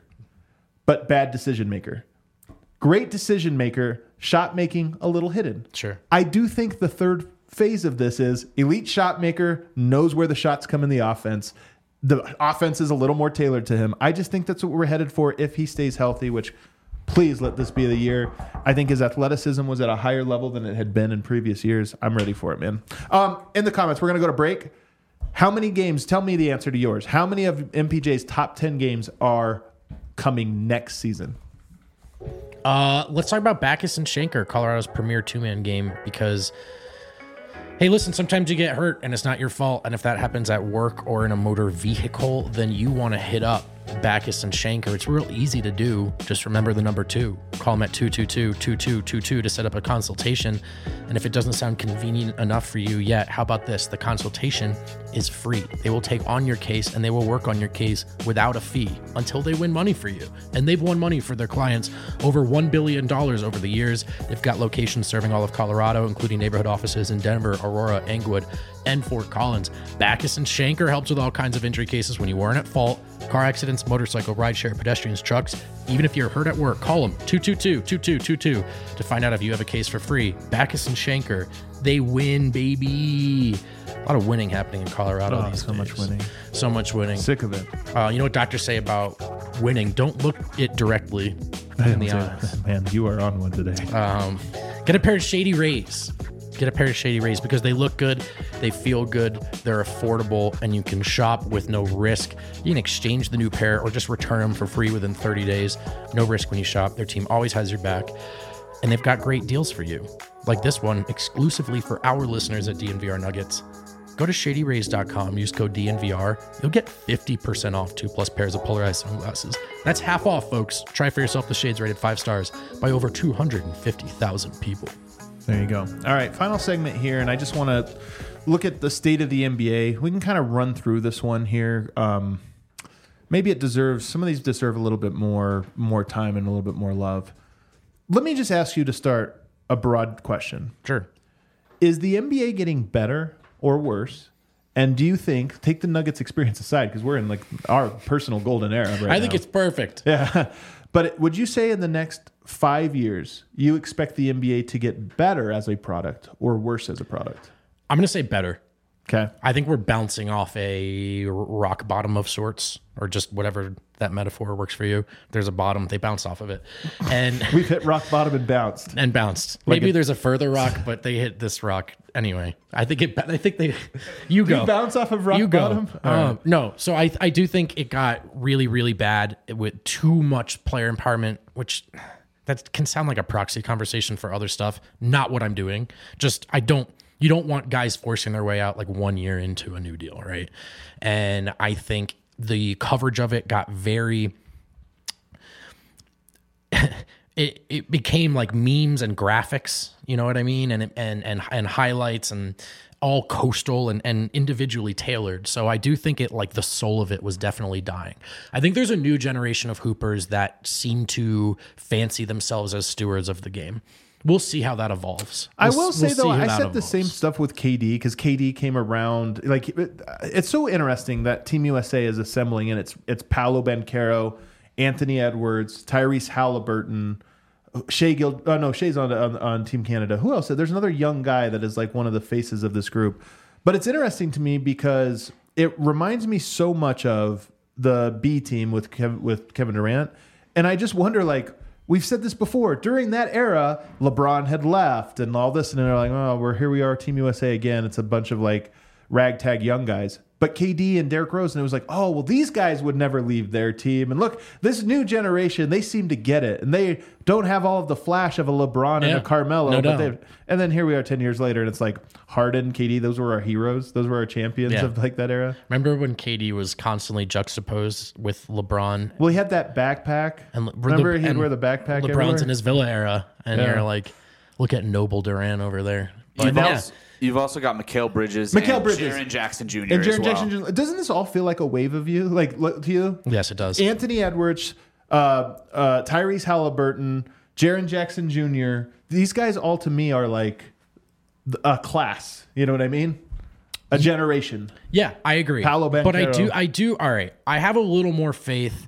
but bad decision maker. Great decision maker, shot making a little hidden. Sure. I do think the third phase of this is elite shot maker, knows where the shots come in the offense. The offense is a little more tailored to him. I just think that's what we're headed for if he stays healthy, which please let this be the year. I think his athleticism was at a higher level than it had been in previous years. I'm ready for it, man. Um, in the comments, we're going to go to break. How many games, tell me the answer to yours. How many of M P J's top ten games are coming next season? Uh, let's talk about Backus and Schenker, Colorado's premier two-man game, because, hey, listen, sometimes you get hurt and it's not your fault. And if that happens at work or in a motor vehicle, then you want to hit up Backus and Shanker. It's real easy to do. Just remember the number two. Call them at two two two, two two two two to set up a consultation. And if it doesn't sound convenient enough for you yet, how about this? The consultation is free. They will take on your case and they will work on your case without a fee until they win money for you. And they've won money for their clients over one billion dollars over the years. They've got locations serving all of Colorado, including neighborhood offices in Denver, Aurora, Englewood, and Fort Collins. Backus and Shanker helps with all kinds of injury cases when you weren't at fault. Car accidents, motorcycle, rideshare, pedestrians, trucks. Even if you're hurt at work, call them two two two, two two two two to find out if you have a case for free. Backus and Shanker, they win, baby. A lot of winning happening in Colorado Oh, these so days. much winning. So much winning. Sick of it. Uh, you know what doctors say about winning? Don't look it directly in the eyes. Man, you are on one today. Um, get a pair of Shady Rays. Get a pair of Shady Rays because they look good, they feel good, they're affordable, and you can shop with no risk. You can exchange the new pair or just return them for free within thirty days. No risk when you shop. Their team always has your back. And they've got great deals for you. Like this one, exclusively for our listeners at D N V R Nuggets. Go to shady rays dot com, use code D N V R. You'll get fifty percent off two plus pairs of polarized sunglasses. That's half off, folks. Try for yourself the shades rated five stars by over two hundred fifty thousand people. There you go. All right, final segment here, and I just want to look at the state of the N B A. We can kind of run through this one here. Um, maybe it deserves, some of these deserve a little bit more, more time and a little bit more love. Let me just ask you to start a broad question. Sure. Is the N B A getting better or worse? And do you think, take the Nuggets experience aside, because we're in like our personal golden era right now. I think it's perfect. Yeah. But would you say in the next five years, you expect the N B A to get better as a product or worse as a product? I'm going to say better. Okay. I think we're bouncing off a rock bottom of sorts, or just whatever that metaphor works for you. There's a bottom, they bounce off of it. And We've hit rock bottom and bounced. and bounced. Like Maybe a- there's a further rock, but they hit this rock anyway. I think it. I think they. You Do go. you bounce off of rock you go. bottom? All Um, right. No, so I I do think it got really really bad with too much player empowerment, which that can sound like a proxy conversation for other stuff. Not what I'm doing. Just I don't. You don't want guys forcing their way out like one year into a new deal, right? And I think the coverage of it got very. It, it became like memes and graphics, you know what I mean? And and and and highlights and all coastal and, and individually tailored. So I do think it like the soul of it was definitely dying. I think there's a new generation of hoopers that seem to fancy themselves as stewards of the game. We'll see how that evolves. I We'll- will say we'll though, see how I that said the evolves. same stuff with K D because K D came around. Like it, it's so interesting that Team U S A is assembling, and it's it's Paolo Banchero, Anthony Edwards, Tyrese Halliburton, Shea Gild. Oh no, Shea's on, on on Team Canada. Who else? There's another young guy that is like one of the faces of this group. But it's interesting to me because it reminds me so much of the B team with Kev, with Kevin Durant, and I just wonder like. We've said this before. During that era, LeBron had left and all this, and they're like, "Oh, we're here. We are, Team U S A again." It's a bunch of like ragtag young guys. But K D and Derrick Rose, and it was like, "Oh, well, these guys would never leave their team." And look, this new generation, they seem to get it, and they don't have all of the flash of a LeBron and Yeah, a Carmelo. no but doubt. they and then here we are, ten years later, and it's like Harden, K D. Those were our heroes. Those were our champions Yeah. of like that era. Remember when K D was constantly juxtaposed with LeBron? Well, he had that backpack. And Le- Remember, he'd and wear the backpack. LeBron's everywhere? in his Villa era, and Yeah. you're like, look at Noble Duran over there. But You've, yeah, also, you've also got Mikal Bridges Mikal and Bridges. Jaren Jackson Junior And as Jaren well. Jackson, Junior doesn't this all feel like a wave of you? Like look, to you? yes, it does. Anthony Edwards, uh, uh, Tyrese Halliburton, Jaren Jackson Junior These guys all to me are like a class. You know what I mean? A generation. Yeah, I agree. Paolo but I Banchero. do, I do. All right, I have a little more faith.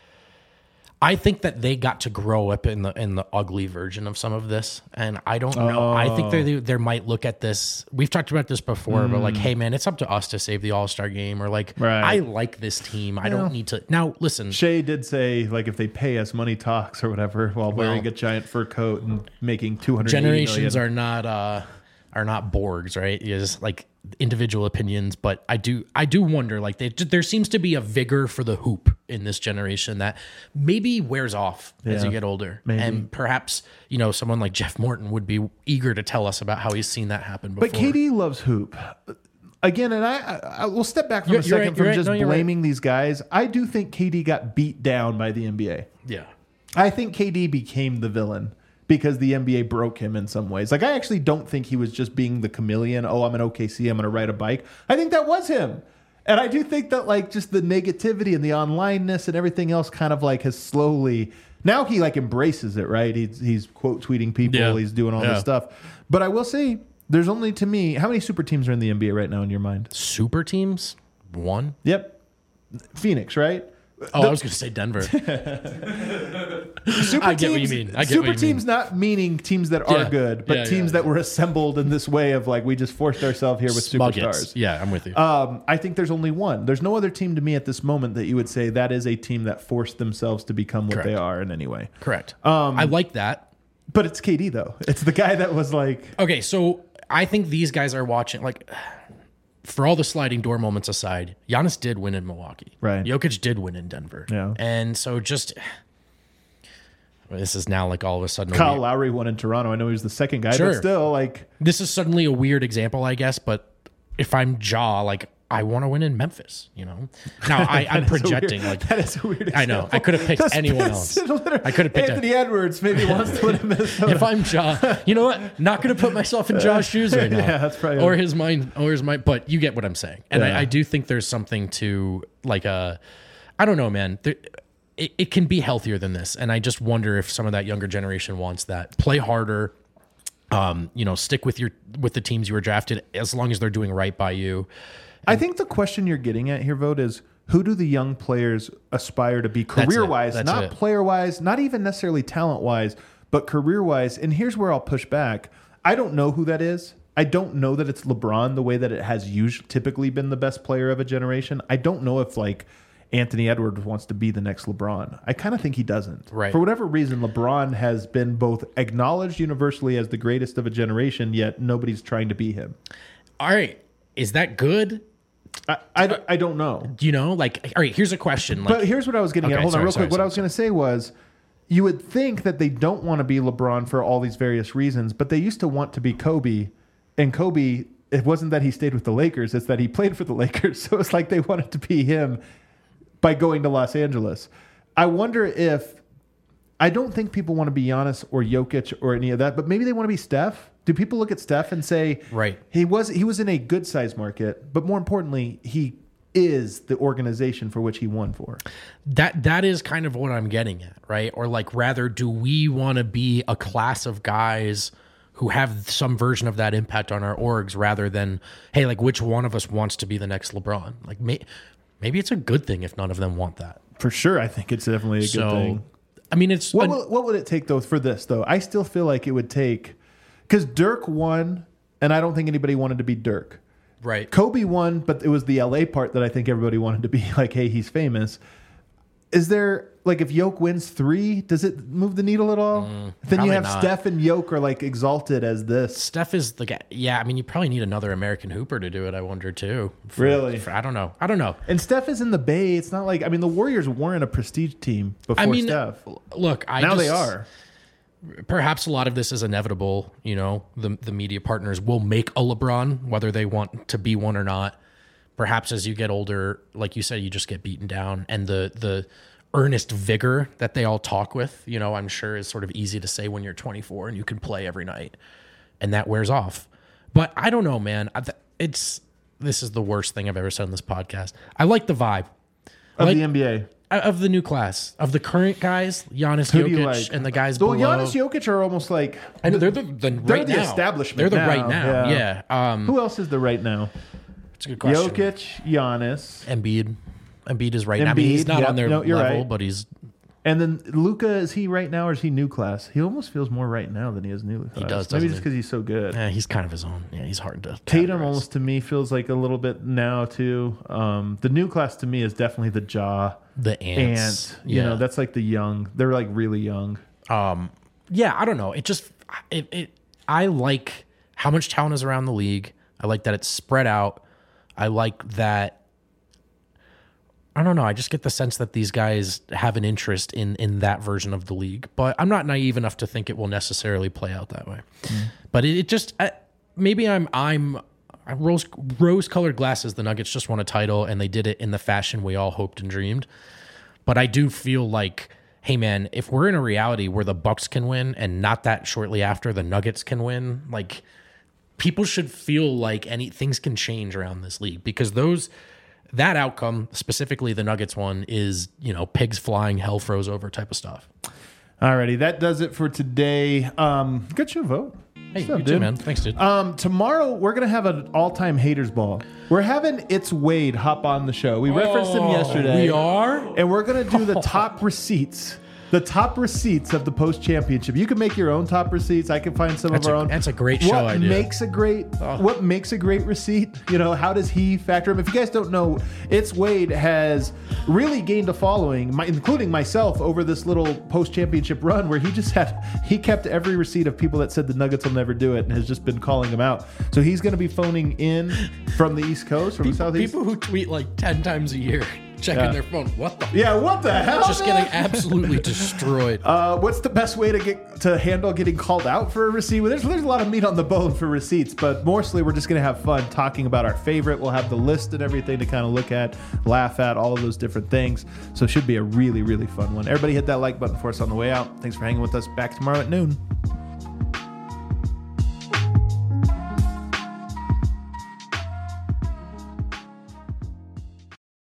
I think that they got to grow up in the in the ugly version of some of this, and I don't know. I think they they might look at this. We've talked about this before, but like, hey man, it's up to us to save the All Star game, or like, Right. I like this team. I don't need to. Now listen, Shea did say like if they pay us, money talks or whatever, while wearing a giant fur coat and making two hundred generations are not uh are not Borgs, right? You just like individual opinions, but I do I do wonder like they, there seems to be a vigor for the hoop in this generation that maybe wears off as Yeah, you get older. maybe. And perhaps, you know, someone like Jeff Morton would be eager to tell us about how he's seen that happen before. But K D loves hoop. again, and I, I, I will step back for You're- a you're second right, from you're right. just No, you're right. blaming these guys. I do think K D got beat down by the N B A. Yeah. I think K D became the villain because the N B A broke him in some ways. Like, I actually don't think he was just being the chameleon. Oh, I'm an O K C. I'm going to ride a bike. I think that was him. And I do think that, like, just the negativity and the onlineness and everything else kind of, like, has slowly... Now he, like, embraces it, right? He's, he's quote tweeting people. Yeah. He's doing all Yeah. this stuff. But I will say, there's only, to me... How many super teams are in the N B A right now in your mind? Super teams? One? Yep. Phoenix, right? Oh, The- I was going to say Denver. Super I get what you teams- mean. I get super what you mean. teams not meaning teams that are Yeah. good, but Yeah, teams yeah, that were assembled in this way of like we just forced ourselves here with Smuggets. superstars. Yeah, I'm with you. Um, I think there's only one. There's no other team to me at this moment that you would say that is a team that forced themselves to become what Correct. they are in any way. Correct. um, I like that. But it's K D though. It's the guy that was like, Okay, so I think these guys are watching, like, for all the sliding door moments aside, Giannis did win in Milwaukee. Right. Jokic did win in Denver. Yeah. And so just, this is now like all of a sudden, a Kyle weird- Lowry won in Toronto. I know he was the second guy, Sure. but still, like, this is suddenly a weird example, I guess, but if I'm Ja, like, I want to win in Memphis, you know? Now, I, I'm that is a weird- projecting, like, that is a weird. I know. example. I could have picked That's- anyone that's else. literally- I could have picked a- Anthony Edwards. Maybe wants to win in Minnesota. if I'm Ja, you know what? Not going to put myself in Ja's shoes right now. Yeah, that's probably- or his mind, or his mind. But you get what I'm saying, and Yeah. I, I do think there's something to like a, I don't know, man. There, it, it can be healthier than this, and I just wonder if some of that younger generation wants that. Play harder. Um, you know, stick with your with the teams you were drafted as long as they're doing right by you. I think the question you're getting at here, Vote, is who do the young players aspire to be That's it. career wise, That's not it. player wise, not even necessarily talent wise, but career wise. And here's where I'll push back. I don't know who that is. I don't know that it's LeBron the way that it has usually typically been the best player of a generation. I don't know if like Anthony Edwards wants to be the next LeBron. I kind of think he doesn't. Right. For whatever reason, LeBron has been both acknowledged universally as the greatest of a generation, yet nobody's trying to be him. All right, is that good? I, I, I don't know. You know, like, all right, here's a question. Like, But here's what I was getting Okay, at. Hold sorry, on, real sorry, quick. What sorry, I was going to say was, you would think that they don't want to be LeBron for all these various reasons, but they used to want to be Kobe, and Kobe. It wasn't that he stayed with the Lakers; it's that he played for the Lakers. So it's like they wanted to be him by going to Los Angeles. I wonder if I don't think people want to be Giannis or Jokic or any of that, but maybe they want to be Steph. Do people look at Steph and say, Right. he was he was in a good size market, but more importantly, he is the organization for which he won for. that that is kind of what I'm getting at, right? Or like, rather, do we want to be a class of guys who have some version of that impact on our orgs, rather than, hey, like, which one of us wants to be the next LeBron? Like, may, maybe it's a good thing if none of them want that. For sure, I think it's definitely a good So, thing. I mean, it's What an- will, what would it take though for this though? I still feel like it would take because Dirk won, and I don't think anybody wanted to be Dirk. right. Kobe won, but it was the L A part that I think everybody wanted to be like, hey, he's famous. Is there like if Yoke wins three, does it move the needle at all? then you probably have not. Steph and Yoke are like exalted as this. Steph is the guy. Yeah, I mean, you probably need another American hooper to do it. I wonder too. For- Really? for- I don't know. I don't know. And Steph is in the Bay. It's not like I mean the Warriors weren't a prestige team before I mean, Steph. look, I Now just, they are. Perhaps a lot of this is inevitable. You know, the the media partners will make a LeBron, whether they want to be one or not. Perhaps as you get older, like you said, you just get beaten down, and the the earnest vigor that they all talk with, you know, I'm sure is sort of easy to say when you're twenty-four and you can play every night, and that wears off. But I don't know, man. I th- It's this is the worst thing I've ever said on this podcast. I like the vibe Of like- the N B A. of the new class, of the current guys, Giannis, Who do you Jokic, like? and the guys Well, below. Giannis, Jokic are almost like I know they're the, the they're right the now. establishment They're the now, right now. yeah. Yeah. Um, who else is the right now? it's a good question. Jokic, Giannis, Embiid. Embiid is right now. I mean, he's Embiid, not yeah. on their No, you're level, right. but he's and then Luca. Is he right now or is he new class? He almost feels more right now than he is new class. does, Maybe doesn't just he? because he's so good. yeah, he's kind of his own. Yeah, he's hard to. Tatum categorize. almost to me feels like a little bit now too. Um, the new class to me is definitely the Jaw the ants. Ant. You yeah. know, that's like the young. They're like really young. Um, yeah, I don't know. It just it, it I like how much talent is around the league. I like that it's spread out. I like that. I don't know. I just get the sense that these guys have an interest in in that version of the league, but I'm not naive enough to think it will necessarily play out that way. But it, it just I, maybe I'm I'm rose rose colored glasses. The Nuggets just won a title, and they did it in the fashion we all hoped and dreamed. But I do feel like, hey man, if we're in a reality where the Bucks can win, and not that shortly after the Nuggets can win, like people should feel like any things can change around this league, because those that outcome, specifically the Nuggets one, is, you know, pigs flying, hell froze over type of stuff. Alrighty, that does it for today. Um, get you a vote. Hey, What's up, you too, dude? man. Thanks, dude. Um, tomorrow we're gonna have an all-time haters ball. We're having It's Wade hop on the show. We referenced him yesterday. We are? And we're gonna do the top receipts. The top receipts of the post championship. You can make your own top receipts. I can find some That's of our a- own. that's a great what show idea. Makes a great what makes a great receipt? You know, how does he factor him? If you guys don't know, It's Wade has really gained a following, my, including myself, over this little post championship run where he just had he kept every receipt of people that said the Nuggets will never do it and has just been calling them out. So he's going to be phoning in from the East Coast, from the People, Southeast. people who tweet like ten times a year, checking Yeah. their phone. What the? Yeah, what the hell? Just man? getting absolutely destroyed. Uh, what's the best way to get to handle getting called out for a receipt? Well, there's there's a lot of meat on the bone for receipts, but mostly we're just gonna have fun talking about our favorite. We'll have the list and everything to kind of look at, laugh at, all of those different things. So it should be a really really fun one. Everybody hit that like button for us on the way out. Thanks for hanging with us. Back tomorrow at noon.